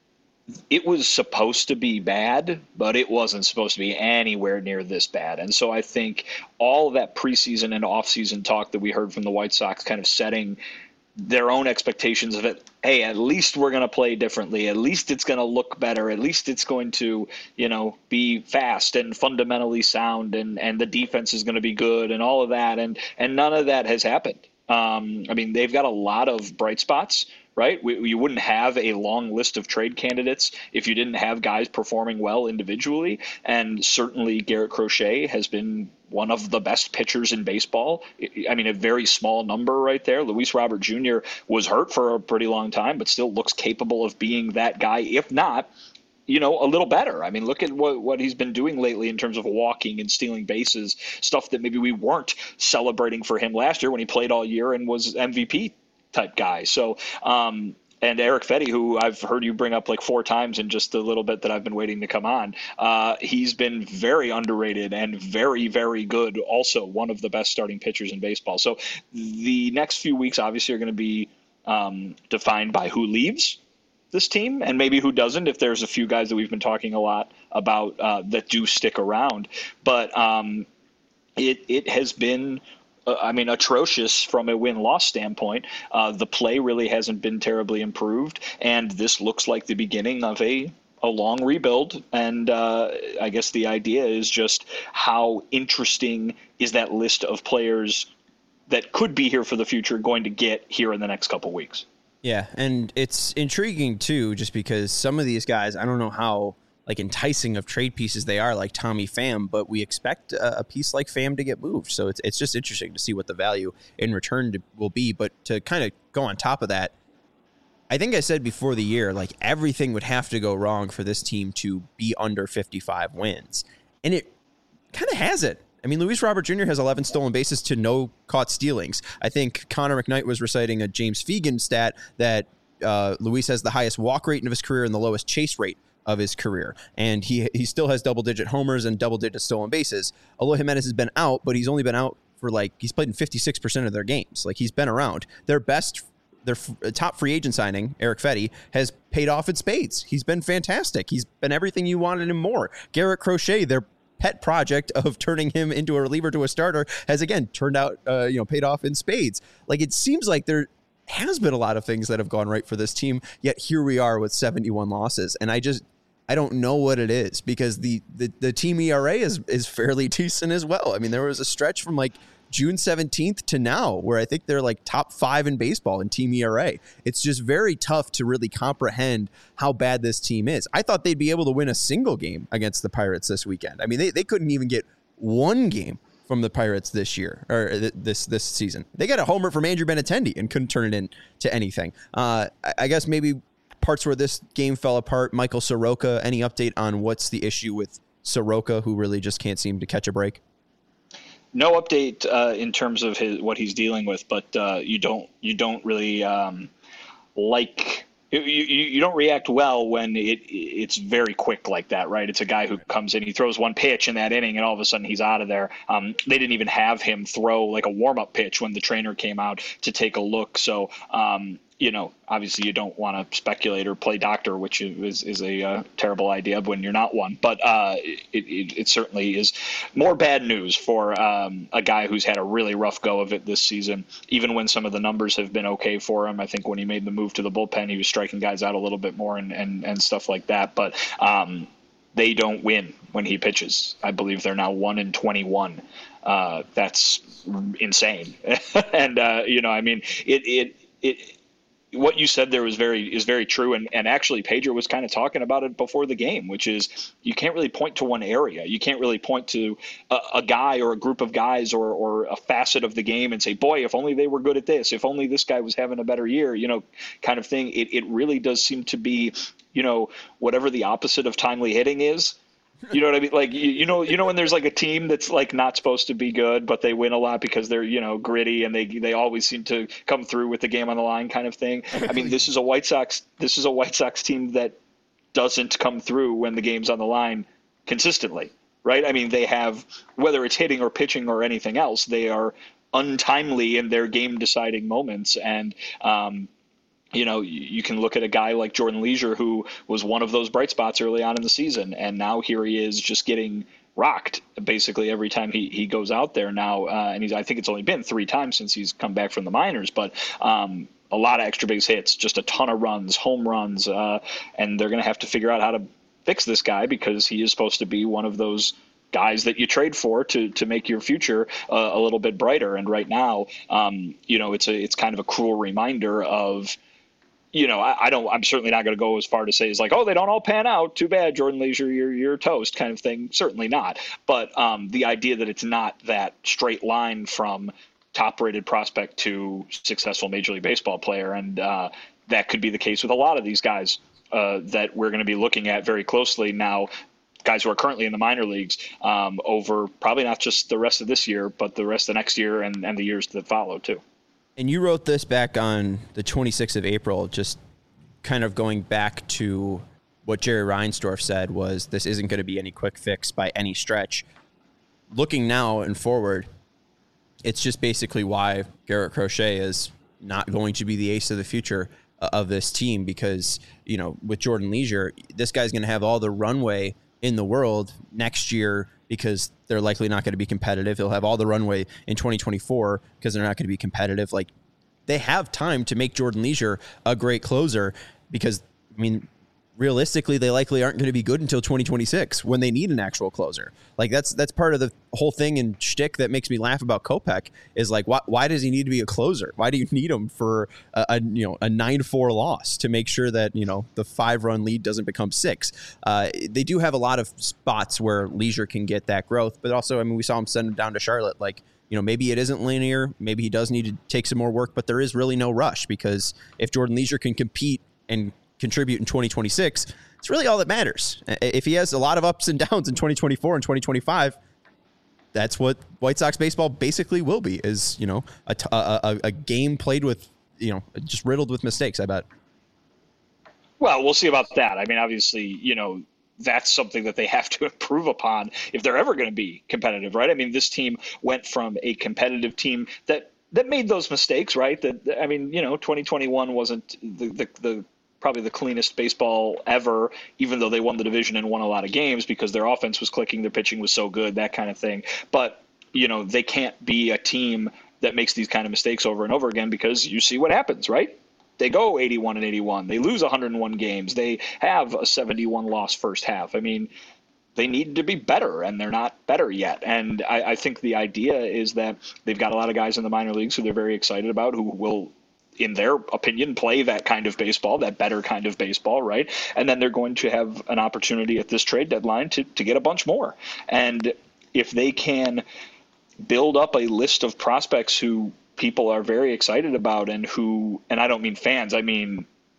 it was supposed to be bad, but it wasn't supposed to be anywhere near this bad. And so I think all of that preseason and offseason talk that we heard from the White Sox kind of setting their own expectations of it. Hey, at least we're going to play differently. At least it's going to look better. At least it's going to, you know, be fast and fundamentally sound, and, and the defense is going to be good and all of that. And, and none of that has happened. Um, I mean, they've got a lot of bright spots, right? We, you wouldn't have a long list of trade candidates if you didn't have guys performing well individually. And certainly Garrett Crochet has been one of the best pitchers in baseball. I mean, a very small number right there. Luis Robert Junior was hurt for a pretty long time, but still looks capable of being that guy, if not, you know, a little better. I mean, look at what, what he's been doing lately in terms of walking and stealing bases, stuff that maybe we weren't celebrating for him last year when he played all year and was M V P type guy. So, um, and Erick Fedde, who I've heard you bring up like four times in just a little bit that I've been waiting to come on, uh, he's been very underrated and very, very good. Also one of the best starting pitchers in baseball. So the next few weeks obviously are going to be um, defined by who leaves this team and maybe who doesn't, if there's a few guys that we've been talking a lot about uh, that do stick around. But um, it it has been I mean, atrocious from a win-loss standpoint. Uh, the play really hasn't been terribly improved, and this looks like the beginning of a, a long rebuild. And uh, I guess the idea is just how interesting is that list of players that could be here for the future going to get here in the next couple weeks. Yeah, and it's intriguing, too, just because some of these guys, I don't know how like enticing of trade pieces they are, like Tommy Pham, but we expect a, a piece like Pham to get moved. So it's it's just interesting to see what the value in return to, will be. But to kind of go on top of that, I think I said before the year, like everything would have to go wrong for this team to be under fifty-five wins. And it kind of has it. I mean, Luis Robert Junior has eleven stolen bases to no caught stealings. I think Connor McKnight was reciting a James Fegan stat that uh, Luis has the highest walk rate of his career and the lowest chase rate of his career. And he he still has double-digit homers and double-digit stolen bases. Eloy Jimenez has been out, but he's only been out for like, he's played in fifty-six percent of their games. Like, he's been around. Their best, their f- top free agent signing, Erick Fedde, has paid off in spades. He's been fantastic. He's been everything you wanted and more. Garrett Crochet, their pet project of turning him into a reliever to a starter, has again turned out, uh, you know, paid off in spades. Like, it seems like there has been a lot of things that have gone right for this team, yet here we are with seventy-one losses. And I just, I don't know what it is, because the, the, the team E R A is, is fairly decent as well. I mean, there was a stretch from like June seventeenth to now where I think they're like top five in baseball in team E R A. It's just very tough to really comprehend how bad this team is. I thought they'd be able to win a single game against the Pirates this weekend. I mean, they, they couldn't even get one game from the Pirates this year, or th- this this season. They got a homer from Andrew Benintendi and couldn't turn it into anything. Uh, I, I guess maybe parts where this game fell apart, Michael Soroka, any update on what's the issue with Soroka, who really just can't seem to catch a break? No update uh, in terms of his, what he's dealing with, but uh, you don't you don't really um, like you, you, you don't react well when it it's very quick like that, right? It's a guy who comes in, he throws one pitch in that inning, and all of a sudden he's out of there. Um, they didn't even have him throw like a warm up pitch when the trainer came out to take a look. So. Um, You know, obviously you don't want to speculate or play doctor, which is, is a uh, terrible idea when you're not one. But uh, it, it, it certainly is more bad news for um, a guy who's had a really rough go of it this season, even when some of the numbers have been okay for him. I think when he made the move to the bullpen, he was striking guys out a little bit more and, and, and stuff like that. But um, they don't win when he pitches. I believe they're now one in twenty-one. Uh, that's insane. and, uh, you know, I mean, it it it. What you said there was very is very true, and, and actually Pedro was kind of talking about it before the game, which is you can't really point to one area. You can't really point to a, a guy or a group of guys or or a facet of the game and say, boy, if only they were good at this, if only this guy was having a better year, you know, kind of thing. It it really does seem to be, you know, whatever the opposite of timely hitting is. You know what I mean? Like, you, you know, you know, when there's like a team that's like not supposed to be good, but they win a lot because they're, you know, gritty and they, they always seem to come through with the game on the line kind of thing. I mean, this is a White Sox, this is a White Sox team that doesn't come through when the game's on the line consistently, right? I mean, they have, whether it's hitting or pitching or anything else, they are untimely in their game deciding moments. And, um, you know, you can look at a guy like Jordan Leisure, who was one of those bright spots early on in the season. And now here he is just getting rocked basically every time he, he goes out there now. Uh, and he's, I think it's only been three times since he's come back from the minors, but um, a lot of extra base hits, just a ton of runs, home runs. Uh, and they're going to have to figure out how to fix this guy because he is supposed to be one of those guys that you trade for to to make your future uh, a little bit brighter. And right now, um, you know, it's a, it's kind of a cruel reminder of, you know, I, I don't, I'm certainly not going to go as far to say it's like, oh, they don't all pan out. Too bad, Jordan Leisure, you're, you're toast kind of thing. Certainly not. But um, the idea that it's not that straight line from top rated prospect to successful Major League Baseball player. And uh, that could be the case with a lot of these guys uh, that we're going to be looking at very closely now, guys who are currently in the minor leagues um, over probably not just the rest of this year, but the rest of the next year and, and the years that follow too. And you wrote this back on the twenty-sixth of April, just kind of going back to what Jerry Reinsdorf said was this isn't going to be any quick fix by any stretch. Looking now and forward, it's just basically why Garrett Crochet is not going to be the ace of the future of this team because, you know, with Jordan Leisure, this guy's going to have all the runway in the world next year because they're likely not going to be competitive. He'll have all the runway in twenty twenty-four because they're not going to be competitive. Like, they have time to make Jordan Leisure a great closer because, I mean, realistically, they likely aren't going to be good until twenty twenty-six when they need an actual closer. Like, that's that's part of the whole thing and shtick that makes me laugh about Kopech is like, why, why does he need to be a closer? Why do you need him for a, a you know a nine four loss to make sure that, you know, the five run lead doesn't become six? Uh, they do have a lot of spots where Leisure can get that growth, but also, I mean, we saw him send him down to Charlotte. Like, you know, maybe it isn't linear. Maybe he does need to take some more work, but there is really no rush because if Jordan Leisure can compete and contribute in twenty twenty-six, it's really all that matters. If he has a lot of ups and downs in twenty twenty-four and twenty twenty-five, that's what White Sox baseball basically will be, is, you know, a, a, a game played with, you know, just riddled with mistakes, I bet. Well, we'll see about that. I mean, obviously, you know, that's something that they have to improve upon if they're ever going to be competitive, right? I mean, this team went from a competitive team that that made those mistakes, right? That, I mean, you know, twenty twenty-one wasn't the, the, the probably the cleanest baseball ever, even though they won the division and won a lot of games because their offense was clicking, their pitching was so good, that kind of thing. But, you know, they can't be a team that makes these kind of mistakes over and over again because you see what happens, right? They go eighty-one and eighty-one. They lose one hundred one games. They have a seventy-one loss first half. I mean, they need to be better, and they're not better yet. And I, I think the idea is that they've got a lot of guys in the minor leagues who they're very excited about, who will, in their opinion, play that kind of baseball, that better kind of baseball, right? And then they're going to have an opportunity at this trade deadline to, to get a bunch more. And if they can build up a list of prospects who people are very excited about and who, and I don't mean fans, I mean,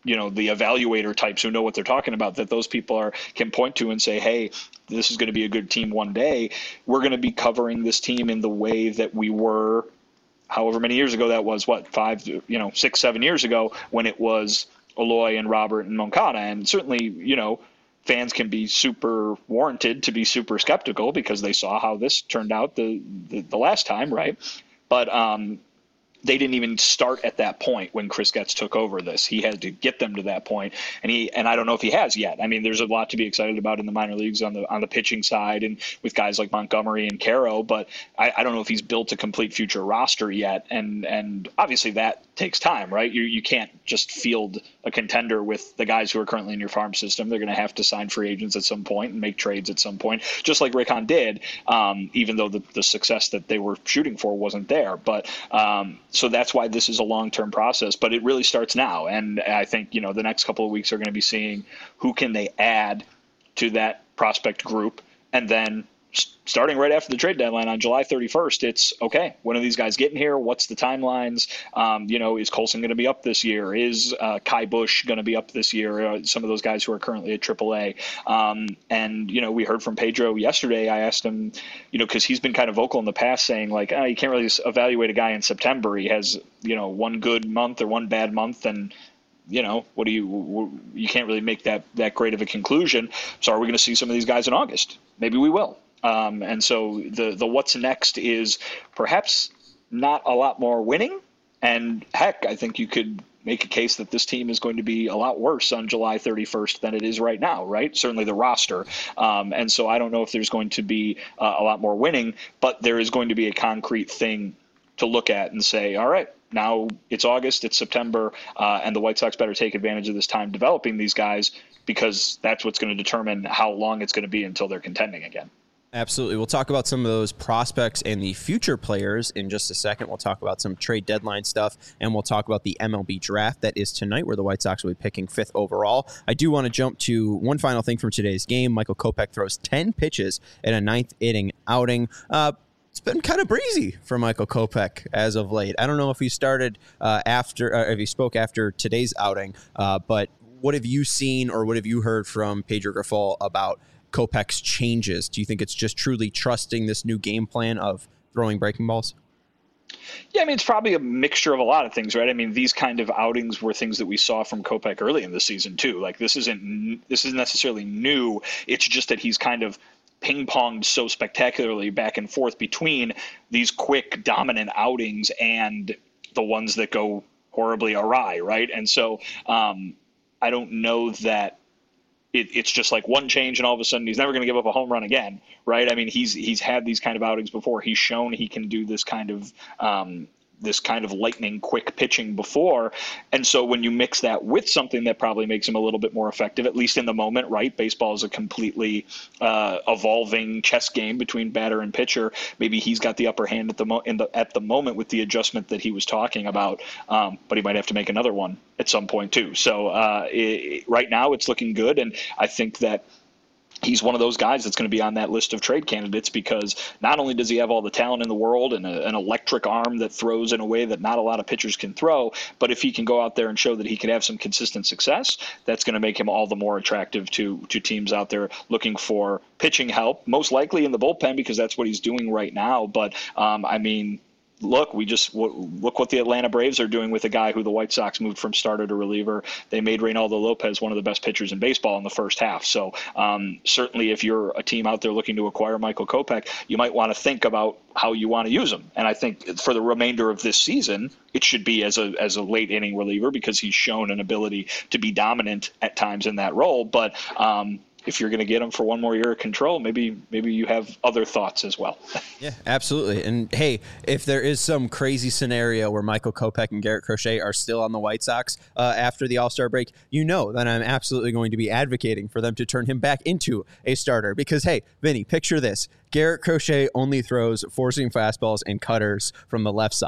you know, the evaluator types who know what they're talking about, that those people are can point to and say, hey, this is going to be a good team one day. We're going to be covering this team in the way that we were however many years ago that was, what, five, you know, six, seven years ago when it was Eloy and Robert and Moncada. And certainly, you know, fans can be super warranted to be super skeptical because they saw how this turned out the, the, the last time, right? But um, they didn't even start at that point when Chris Getz took over this. He had to get them to that point, and he and I don't know if he has yet. I mean, there's a lot to be excited about in the minor leagues on the on the pitching side and with guys like Montgomery and Caro, but I, I don't know if he's built a complete future roster yet. And and obviously that takes time, right? You you can't just field a contender with the guys who are currently in your farm system. They're going to have to sign free agents at some point and make trades at some point, just like Rick Hahn did, um, even though the, the success that they were shooting for wasn't there. But um, so that's why this is a long-term process, but it really starts now. And I think, you know, the next couple of weeks are going to be seeing who can they add to that prospect group. And then starting right after the trade deadline on July thirty-first, it's okay, when are these guys getting here? What's the timelines? Um, you know, is Colson going to be up this year? Is uh, Kai Bush going to be up this year? Uh, some of those guys who are currently at triple A. Um, and, you know, we heard from Pedro yesterday. I asked him, you know, because he's been kind of vocal in the past saying, like, oh, you can't really evaluate a guy in September. He has, you know, one good month or one bad month, and you know, what do you, you can't really make that, that great of a conclusion. So are we going to see some of these guys in August? Maybe we will. Um, and so the, the what's next is perhaps not a lot more winning. And heck, I think you could make a case that this team is going to be a lot worse on July thirty-first than it is right now, right? Certainly the roster. Um, and so I don't know if there's going to be uh, a lot more winning, but there is going to be a concrete thing to look at and say, all right, now it's August, it's September, uh, and the White Sox better take advantage of this time developing these guys, because that's what's going to determine how long it's going to be until they're contending again. Absolutely. We'll talk about some of those prospects and the future players in just a second. We'll talk about some trade deadline stuff, and we'll talk about the M L B draft that is tonight, where the White Sox will be picking fifth overall. I do want to jump to one final thing from today's game. Michael Kopech throws ten pitches in a ninth inning outing. Uh, It's been kind of breezy for Michael Kopech as of late. I don't know if he started uh, after, uh, if he spoke after today's outing, uh, but what have you seen or what have you heard from Pedro Grifol about Kopech's changes? Do you think it's just truly trusting this new game plan of throwing breaking balls? Yeah, I mean, it's probably a mixture of a lot of things, right? I mean, these kind of outings were things that we saw from Kopech early in the season too. Like this isn't this isn't necessarily new. It's just that he's kind of ping-ponged so spectacularly back and forth between these quick, dominant outings and the ones that go horribly awry, right? And so um, I don't know that it, it's just like one change and all of a sudden he's never going to give up a home run again, right? I mean, he's he's had these kind of outings before. He's shown he can do this kind of um, this kind of lightning quick pitching before. And so when you mix that with something that probably makes him a little bit more effective, at least in the moment, right? Baseball is a completely uh, evolving chess game between batter and pitcher. Maybe he's got the upper hand at the mo- in the, at the moment with the adjustment that he was talking about. Um, but he might have to make another one at some point too. So uh, it, right now it's looking good. And I think that he's one of those guys that's going to be on that list of trade candidates, because not only does he have all the talent in the world and a, an electric arm that throws in a way that not a lot of pitchers can throw, but if he can go out there and show that he can have some consistent success, that's going to make him all the more attractive to to teams out there looking for pitching help, most likely in the bullpen, because that's what he's doing right now. But um, I mean, Look, we just look what the Atlanta Braves are doing with a guy who the White Sox moved from starter to reliever. They made Reynaldo Lopez one of the best pitchers in baseball in the first half. So um, certainly if you're a team out there looking to acquire Michael Kopech, you might want to think about how you want to use him. And I think for the remainder of this season, it should be as a as a late inning reliever, because he's shown an ability to be dominant at times in that role. But um, if you're going to get him for one more year of control, maybe maybe you have other thoughts as well. Yeah, absolutely. And hey, if there is some crazy scenario where Michael Kopech and Garrett Crochet are still on the White Sox uh, after the All-Star break, you know that I'm absolutely going to be advocating for them to turn him back into a starter. Because, hey, Vinny, picture this. Garrett Crochet only throws four-seam fastballs and cutters from the left side.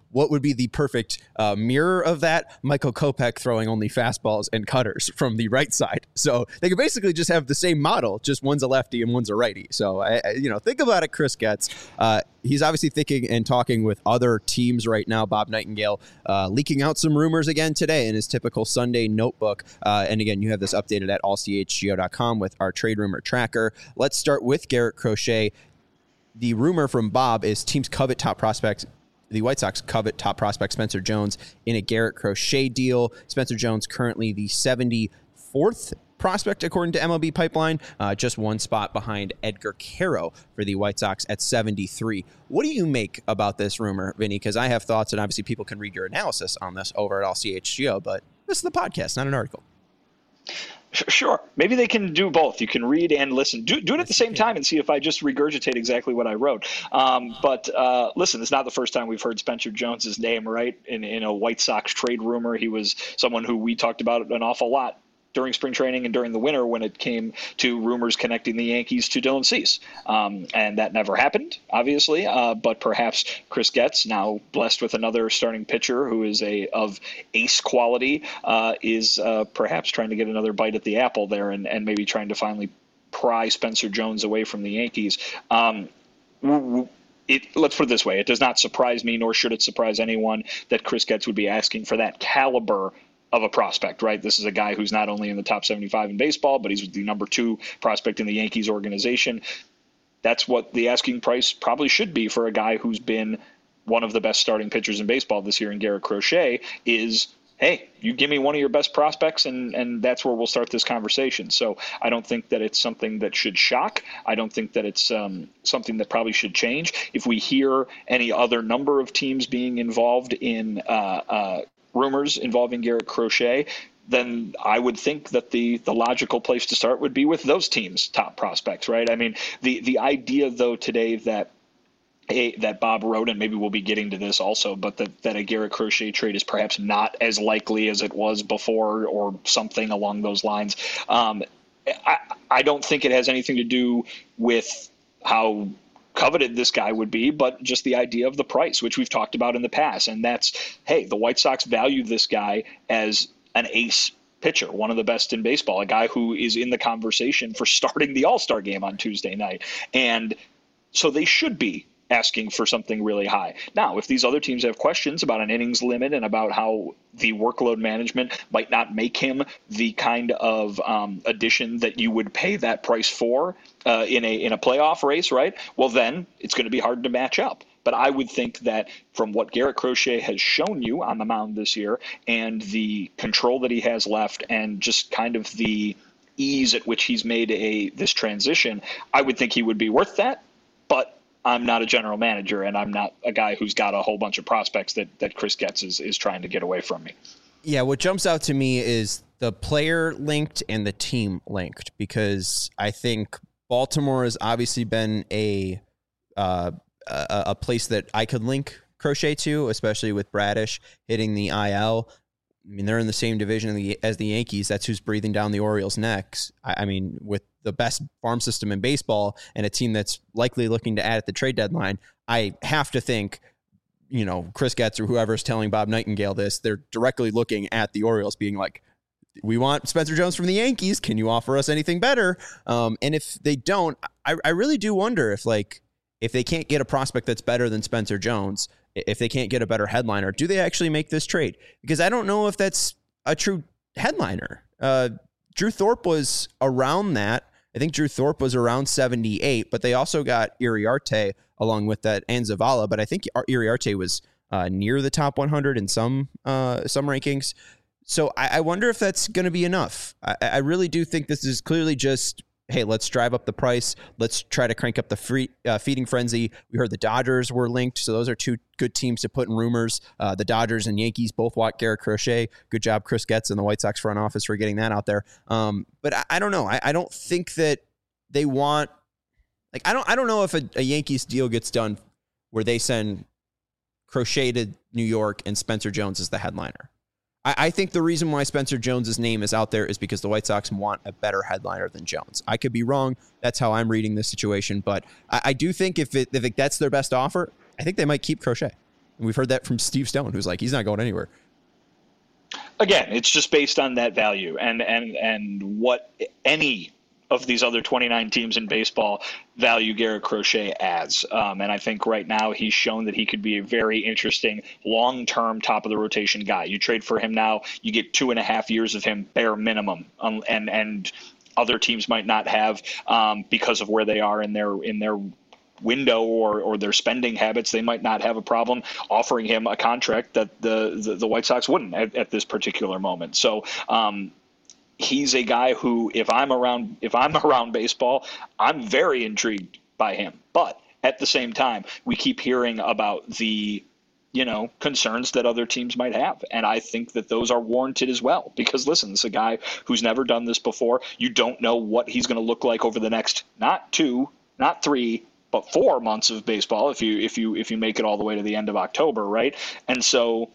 what would be the perfect uh, mirror of that? Michael Kopech throwing only fastballs and cutters from the right side. So they could basically just have the same model, just one's a lefty and one's a righty. So, I, I, you know, think about it, Chris Getz. Uh, he's obviously thinking and talking with other teams right now. Bob Nightingale uh, leaking out some rumors again today in his typical Sunday notebook. Uh, and again, you have this updated at all c h g o dot com with our trade rumor tracker. Let's start with Garrett Crochet. The rumor from Bob is teams covet top prospects. The White Sox covet top prospect Spencer Jones in a Garrett Crochet deal. Spencer Jones currently the seventy-fourth prospect according to M L B Pipeline, uh, just one spot behind Edgar Caro for the White Sox at seventy-three. What do you make about this rumor, Vinny? Because I have thoughts, and obviously people can read your analysis on this over at all c h g o, but this is the podcast, not an article. Sure. Maybe they can do both. You can read and listen. Do, do it at the same time and see if I just regurgitate exactly what I wrote. Um, but uh, listen, it's not the first time we've heard Spencer Jones's name, right, in, in a White Sox trade rumor. He was someone who we talked about an awful lot during spring training and during the winter when it came to rumors connecting the Yankees to Dylan Cease. Um, and that never happened, obviously. Uh, but perhaps Chris Getz, now blessed with another starting pitcher who is a of ace quality, uh, is uh, perhaps trying to get another bite at the apple there and, and maybe trying to finally pry Spencer Jones away from the Yankees. Um, It, let's put it this way. It does not surprise me, nor should it surprise anyone, that Chris Getz would be asking for that caliber of a prospect, right? This is a guy who's not only in the top seventy-five in baseball, but he's the number two prospect in the Yankees organization. That's what the asking price probably should be for a guy who's been one of the best starting pitchers in baseball this year in Garrett Crochet is, hey, you give me one of your best prospects, and, and that's where we'll start this conversation. So I don't think that it's something that should shock. I don't think that it's um, something that probably should change. If we hear any other number of teams being involved in uh, uh, rumors involving Garrett Crochet, then I would think that the the logical place to start would be with those teams' top prospects, right? I mean, the the idea, though, today that a, that Bob wrote, and maybe we'll be getting to this also, but that, that a Garrett Crochet trade is perhaps not as likely as it was before or something along those lines. Um, I, I don't think it has anything to do with how coveted this guy would be, but just the idea of the price, which we've talked about in the past. And that's, hey, the White Sox value this guy as an ace pitcher, one of the best in baseball, a guy who is in the conversation for starting the All-Star game on Tuesday night. And so they should be asking for something really high. Now, if these other teams have questions about an innings limit and about how the workload management might not make him the kind of um, addition that you would pay that price for uh, in a in a playoff race, right? Well, then it's going to be hard to match up. But I would think that from what Garrett Crochet has shown you on the mound this year and the control that he has left and just kind of the ease at which he's made a this transition, I would think he would be worth that. But I'm not a general manager, and I'm not a guy who's got a whole bunch of prospects that, that Chris Getz is, is trying to get away from me. Yeah, what jumps out to me is the player linked and the team linked, because I think Baltimore has obviously been a uh, a, a place that I could link Crochet to, especially with Bradish hitting the I L. I mean, they're in the same division as the Yankees. That's who's breathing down the Orioles' necks. I, I mean, with the best farm system in baseball and a team that's likely looking to add at the trade deadline, I have to think, you know, Chris Getz or whoever's telling Bob Nightingale this, they're directly looking at the Orioles being like, we want Spencer Jones from the Yankees. Can you offer us anything better? Um, and if they don't, I, I really do wonder if, like, if they can't get a prospect that's better than Spencer Jones, if they can't get a better headliner, do they actually make this trade? Because I don't know if that's a true headliner. Uh, Drew Thorpe was around that. I think Drew Thorpe was around seventy-eight, but they also got Iriarte along with that and Zavala. But I think Iriarte was uh, near the top one hundred in some uh, some rankings. So I, I wonder if that's going to be enough. I, I really do think this is clearly just, hey, let's drive up the price. Let's try to crank up the free, uh, feeding frenzy. We heard the Dodgers were linked, so those are two good teams to put in rumors. Uh, the Dodgers and Yankees both want Garrett Crochet. Good job, Chris Getz and the White Sox front office for getting that out there. Um, but I, I don't know. I, I don't think that they want, like, I don't. I don't know if a, a Yankees deal gets done where they send Crochet to New York and Spencer Jones is the headliner. I think the reason why Spencer Jones's name is out there is because the White Sox want a better headliner than Jones. I could be wrong. That's how I'm reading this situation. But I, I do think if, it, if it, that's their best offer, I think they might keep Crochet. And we've heard that from Steve Stone, who's like, he's not going anywhere. Again, it's just based on that value and and and what any of these other twenty-nine teams in baseball value Garrett Crochet as. Um, and I think right now he's shown that he could be a very interesting long-term top of the rotation guy. You trade for him now, you get two and a half years of him bare minimum. Um, and, and other teams might not have um, because of where they are in their, in their window or, or their spending habits. They might not have a problem offering him a contract that the, the, the White Sox wouldn't at, at this particular moment. So, um, he's a guy who, if I'm around, if I'm around baseball, I'm very intrigued by him. But at the same time, we keep hearing about the, you know, concerns that other teams might have. And I think that those are warranted as well, because listen, this is a guy who's never done this before. You don't know what he's going to look like over the next, not two, not three, but four months of baseball. If you, if you, if you make it all the way to the end of October. Right. And so,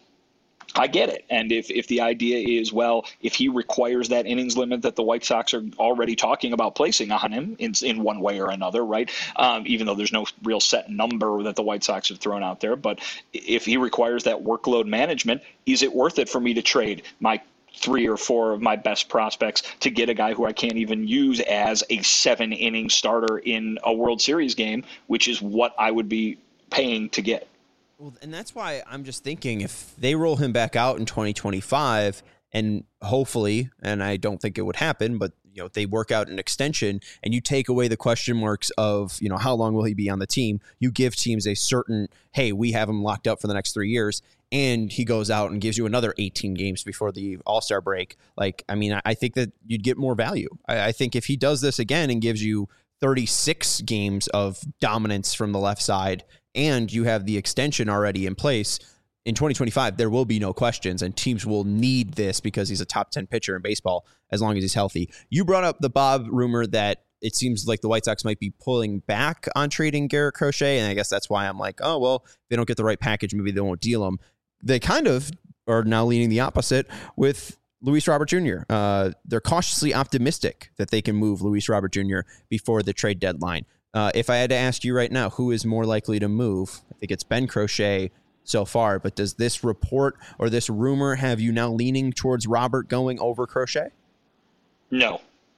I get it. And if, if the idea is, well, if he requires that innings limit that the White Sox are already talking about placing on him in, in one way or another, right, um, even though there's no real set number that the White Sox have thrown out there. But if he requires that workload management, is it worth it for me to trade my three or four of my best prospects to get a guy who I can't even use as a seven-inning starter in a World Series game, which is what I would be paying to get? Well, and that's why I'm just thinking if they roll him back out in twenty twenty-five and hopefully, and I don't think it would happen, but you know, they work out an extension and you take away the question marks of, you know, how long will he be on the team? You give teams a certain, hey, we have him locked up for the next three years. And he goes out and gives you another eighteen games before the All-Star break. Like, I mean, I think that you'd get more value. I, I think if he does this again and gives you thirty-six games of dominance from the left side, and you have the extension already in place, in twenty twenty-five, there will be no questions, and teams will need this because he's a top ten pitcher in baseball as long as he's healthy. You brought up the Bob rumor that it seems like the White Sox might be pulling back on trading Garrett Crochet, and I guess that's why I'm like, oh, well, if they don't get the right package, maybe they won't deal him. They kind of are now leaning the opposite with Luis Robert Junior Uh, they're cautiously optimistic that they can move Luis Robert Junior before the trade deadline. Uh, if I had to ask you right now, who is more likely to move? I think it's Ben Crochet so far, but does this report or this rumor have you now leaning towards Robert going over Crochet? No.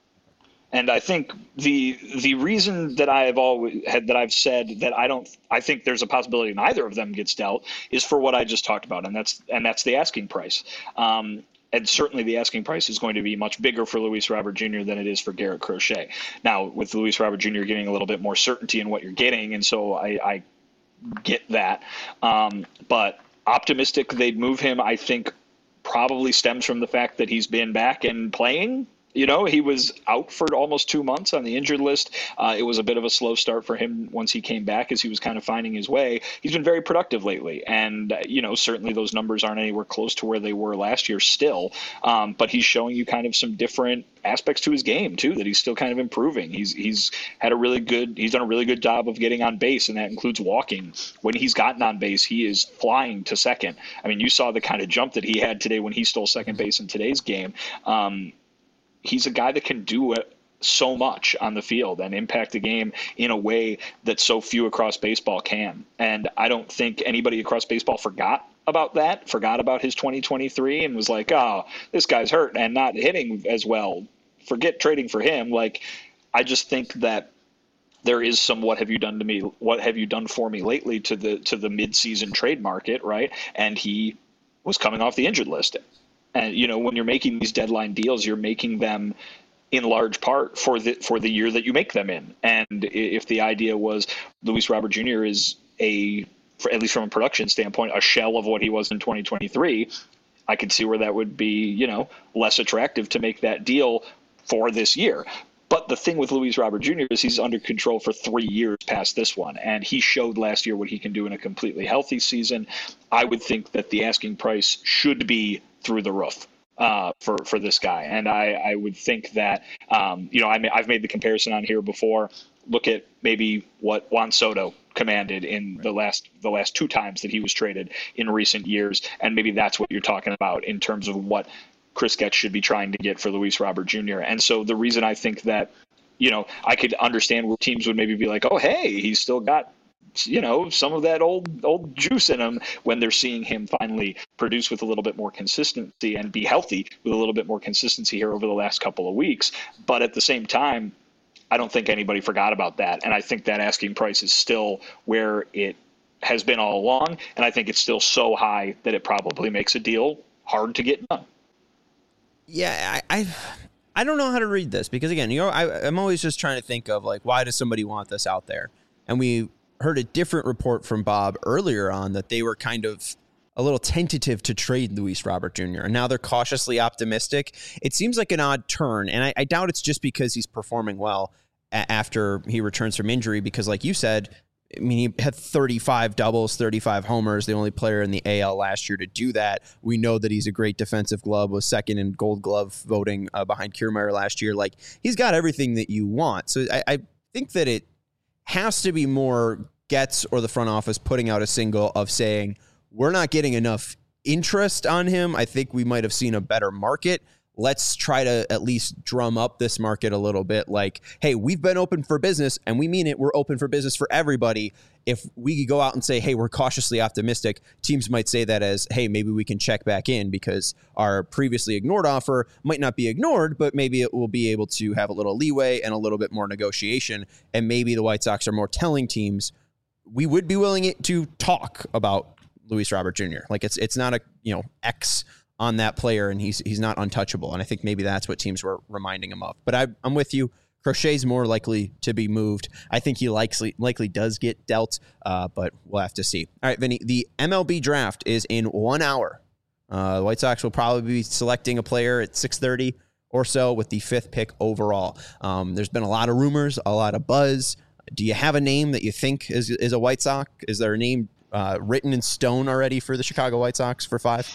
And I think the the reason that I have always had that I've said that I don't I think there's a possibility neither of them gets dealt is for what I just talked about, and that's and that's the asking price. Um, And certainly the asking price is going to be much bigger for Luis Robert Junior than it is for Garrett Crochet. Now, with Luis Robert Junior getting a little bit more certainty in what you're getting, and so I, I get that. Um, but optimistic they'd move him, I think, probably stems from the fact that he's been back and playing. You know, he was out for almost two months on the injured list. Uh, it was a bit of a slow start for him once he came back as he was kind of finding his way. He's been very productive lately. And, uh, you know, certainly those numbers aren't anywhere close to where they were last year still. Um, but he's showing you kind of some different aspects to his game, too, that he's still kind of improving. He's he's had a really good he's done a really good job of getting on base, and that includes walking. When he's gotten on base, he is flying to second. I mean, you saw the kind of jump that he had today when he stole second base in today's game. Um He's a guy that can do it so much on the field and impact the game in a way that so few across baseball can. And I don't think anybody across baseball forgot about that, forgot about his twenty twenty-three and was like, oh, this guy's hurt and not hitting as well. Forget trading for him. Like, I just think that there is some what have you done to me, what have you done for me lately to the to the mid-season trade market, right? And he was coming off the injured list. And, you know, when you're making these deadline deals, you're making them in large part for the for the year that you make them in. And if the idea was Luis Robert Junior is a, for, at least from a production standpoint, a shell of what he was in twenty twenty-three, I could see where that would be, you know, less attractive to make that deal for this year. But the thing with Luis Robert Junior is he's under control for three years past this one, and he showed last year what he can do in a completely healthy season. I would think that the asking price should be through the roof uh, for, for this guy. And I, I would think that, um, you know, I may, I've made the comparison on here before. Look at maybe what Juan Soto commanded in the last the last two times that he was traded in recent years, and maybe that's what you're talking about in terms of what Chris Getz should be trying to get for Luis Robert Junior And so the reason I think that, you know, I could understand where teams would maybe be like, oh, hey, he's still got you know, some of that old old juice in him when they're seeing him finally produce with a little bit more consistency and be healthy with a little bit more consistency here over the last couple of weeks. But at the same time, I don't think anybody forgot about that. And I think that asking price is still where it has been all along. And I think it's still so high that it probably makes a deal hard to get done. Yeah, I, I I don't know how to read this because, again, you know, I, I'm always just trying to think of, like, why does somebody want this out there? And we heard a different report from Bob earlier on that they were kind of a little tentative to trade Luis Robert Junior And now they're cautiously optimistic. It seems like an odd turn, and I, I doubt it's just because he's performing well a- after he returns from injury because, like you said, I mean, he had thirty-five doubles, thirty-five homers, the only player in the A L last year to do that. We know that he's a great defensive glove, was second in Gold Glove voting uh, behind Kiermaier last year. Like, he's got everything that you want. So I, I think that it has to be more Getz or the front office putting out a single of saying, we're not getting enough interest on him. I think we might have seen a better market. Let's try to at least drum up this market a little bit. Like, hey, we've been open for business, and we mean it. We're open for business for everybody. If we go out and say, hey, we're cautiously optimistic, teams might say that as, hey, maybe we can check back in because our previously ignored offer might not be ignored, but maybe it will be able to have a little leeway and a little bit more negotiation. And maybe the White Sox are more telling teams, we would be willing to talk about Luis Robert Junior Like, it's it's not a, you know, X on that player, and he's he's not untouchable. And I think maybe that's what teams were reminding him of. But I, I'm with you. Crochet's more likely to be moved. I think he likely likely does get dealt, uh, but we'll have to see. All right, Vinny, the M L B draft is in one hour. Uh, the White Sox will probably be selecting a player at six thirty or so with the fifth pick overall. Um, there's been a lot of rumors, a lot of buzz. Do you have a name that you think is is a White Sox? Is there a name uh, written in stone already for the Chicago White Sox for five?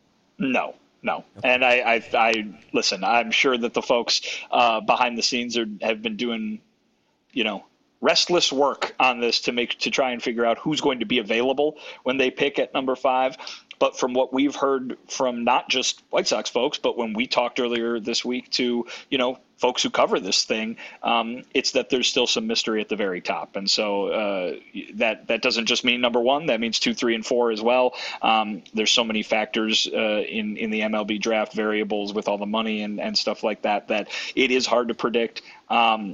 No, no. And I, I, I listen, I'm sure that the folks uh, behind the scenes are, have been doing, you know, restless work on this to make to try and figure out who's going to be available when they pick at number five. But from what we've heard from not just White Sox folks, but when we talked earlier this week to, you know, folks who cover this thing, um, it's that there's still some mystery at the very top. And so uh, that that doesn't just mean number one. That means two, three, and four as well. Um, there's so many factors uh, in, in the M L B draft, variables with all the money and, and stuff like that, that it is hard to predict. Um,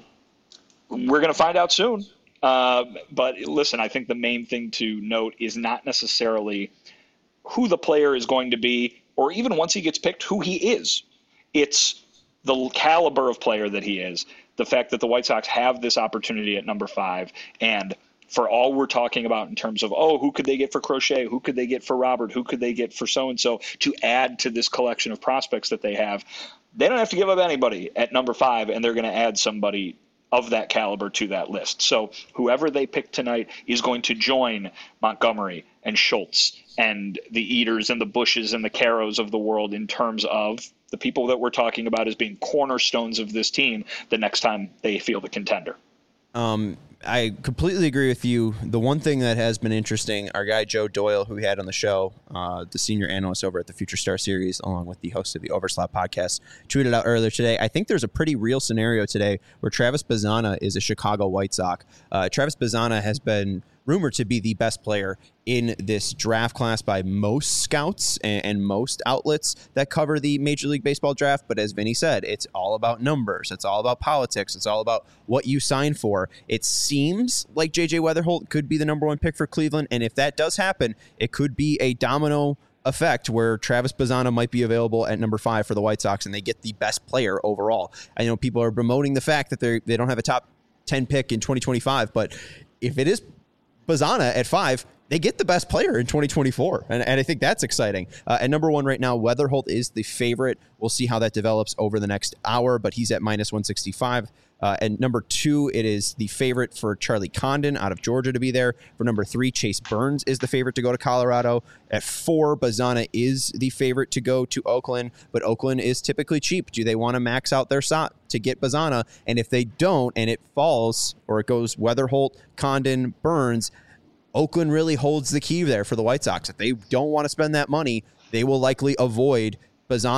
we're going to find out soon. Uh, but listen, I think the main thing to note is not necessarily who the player is going to be, or even once he gets picked, who he is. It's the caliber of player that he is, the fact that the White Sox have this opportunity at number five, and for all we're talking about in terms of, oh, who could they get for Crochet? Who could they get for Robert? Who could they get for so-and-so to add to this collection of prospects that they have? They don't have to give up anybody at number five, and they're going to add somebody of that caliber to that list. So whoever they pick tonight is going to join Montgomery and Schultz and the Eaters and the Bushes and the Caros of the world in terms of the people that we're talking about as being cornerstones of this team the next time they field a contender. Um, I completely agree with you. The one thing that has been interesting, our guy Joe Doyle, who we had on the show, uh, the senior analyst over at the Future Star Series, along with the host of the Overslap podcast, tweeted out earlier today, I think there's a pretty real scenario today where Travis Bazzana is a Chicago White Sox. Uh, Travis Bazzana has been rumored to be the best player in this draft class by most scouts and, and most outlets that cover the Major League Baseball draft. But as Vinny said, it's all about numbers. It's all about politics. It's all about what you sign for. It seems like J J Weatherholt could be the number one pick for Cleveland. And if that does happen, it could be a domino effect where Travis Bazzana might be available at number five for the White Sox and they get the best player overall. I know people are bemoaning the fact that they they don't have a top ten pick in twenty twenty-five, but if it is Bazzana at five, they get the best player in twenty twenty-four. And, and I think that's exciting. Uh, at number one right now, Weatherholt is the favorite. We'll see how that develops over the next hour, but he's at minus one sixty-five. Uh, and number two, it is the favorite for Charlie Condon out of Georgia to be there. For number three, Chase Burns is the favorite to go to Colorado. At four, Bazzana is the favorite to go to Oakland, but Oakland is typically cheap. Do they want to max out their S O T to get Bazzana? And if they don't, and it falls, or it goes Weatherholt, Condon, Burns, Oakland really holds the key there for the White Sox. If they don't want to spend that money, they will likely avoid Bazzana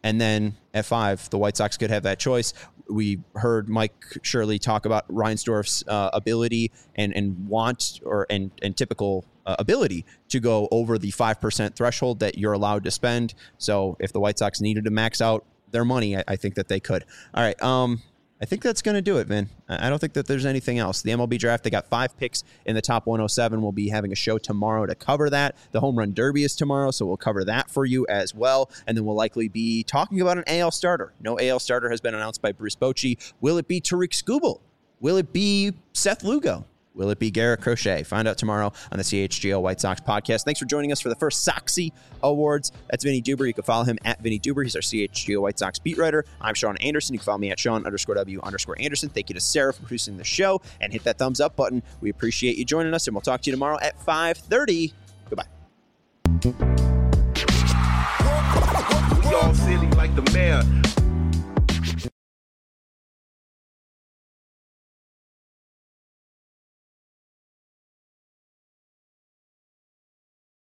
And then at five, the White Sox could have that choice. We heard Mike Shirley talk about Reinsdorf's uh, ability and, and want or and, and typical uh, ability to go over the five percent threshold that you're allowed to spend. So if the White Sox needed to max out their money, I, I think that they could. All right. Um, I think that's going to do it, Vin. I don't think that there's anything else. The M L B draft, they got five picks in the top one oh seven. We'll be having a show tomorrow to cover that. The Home Run Derby is tomorrow, so we'll cover that for you as well. And then we'll likely be talking about an A L starter. No A L starter has been announced by Bruce Bochy. Will it be Tariq Skubal? Will it be Seth Lugo? Will it be Garrett Crochet? Find out tomorrow on the C H G O White Sox podcast. Thanks for joining us for the first Soxy Awards. That's Vinny Duber. You can follow him at Vinny Duber. He's our C H G O White Sox beat writer. I'm Sean Anderson. You can follow me at Sean underscore W underscore Anderson. Thank you to Sarah for producing the show. And hit that thumbs up button. We appreciate you joining us, and we'll talk to you tomorrow at five thirty. Goodbye. We all silly like the mayor.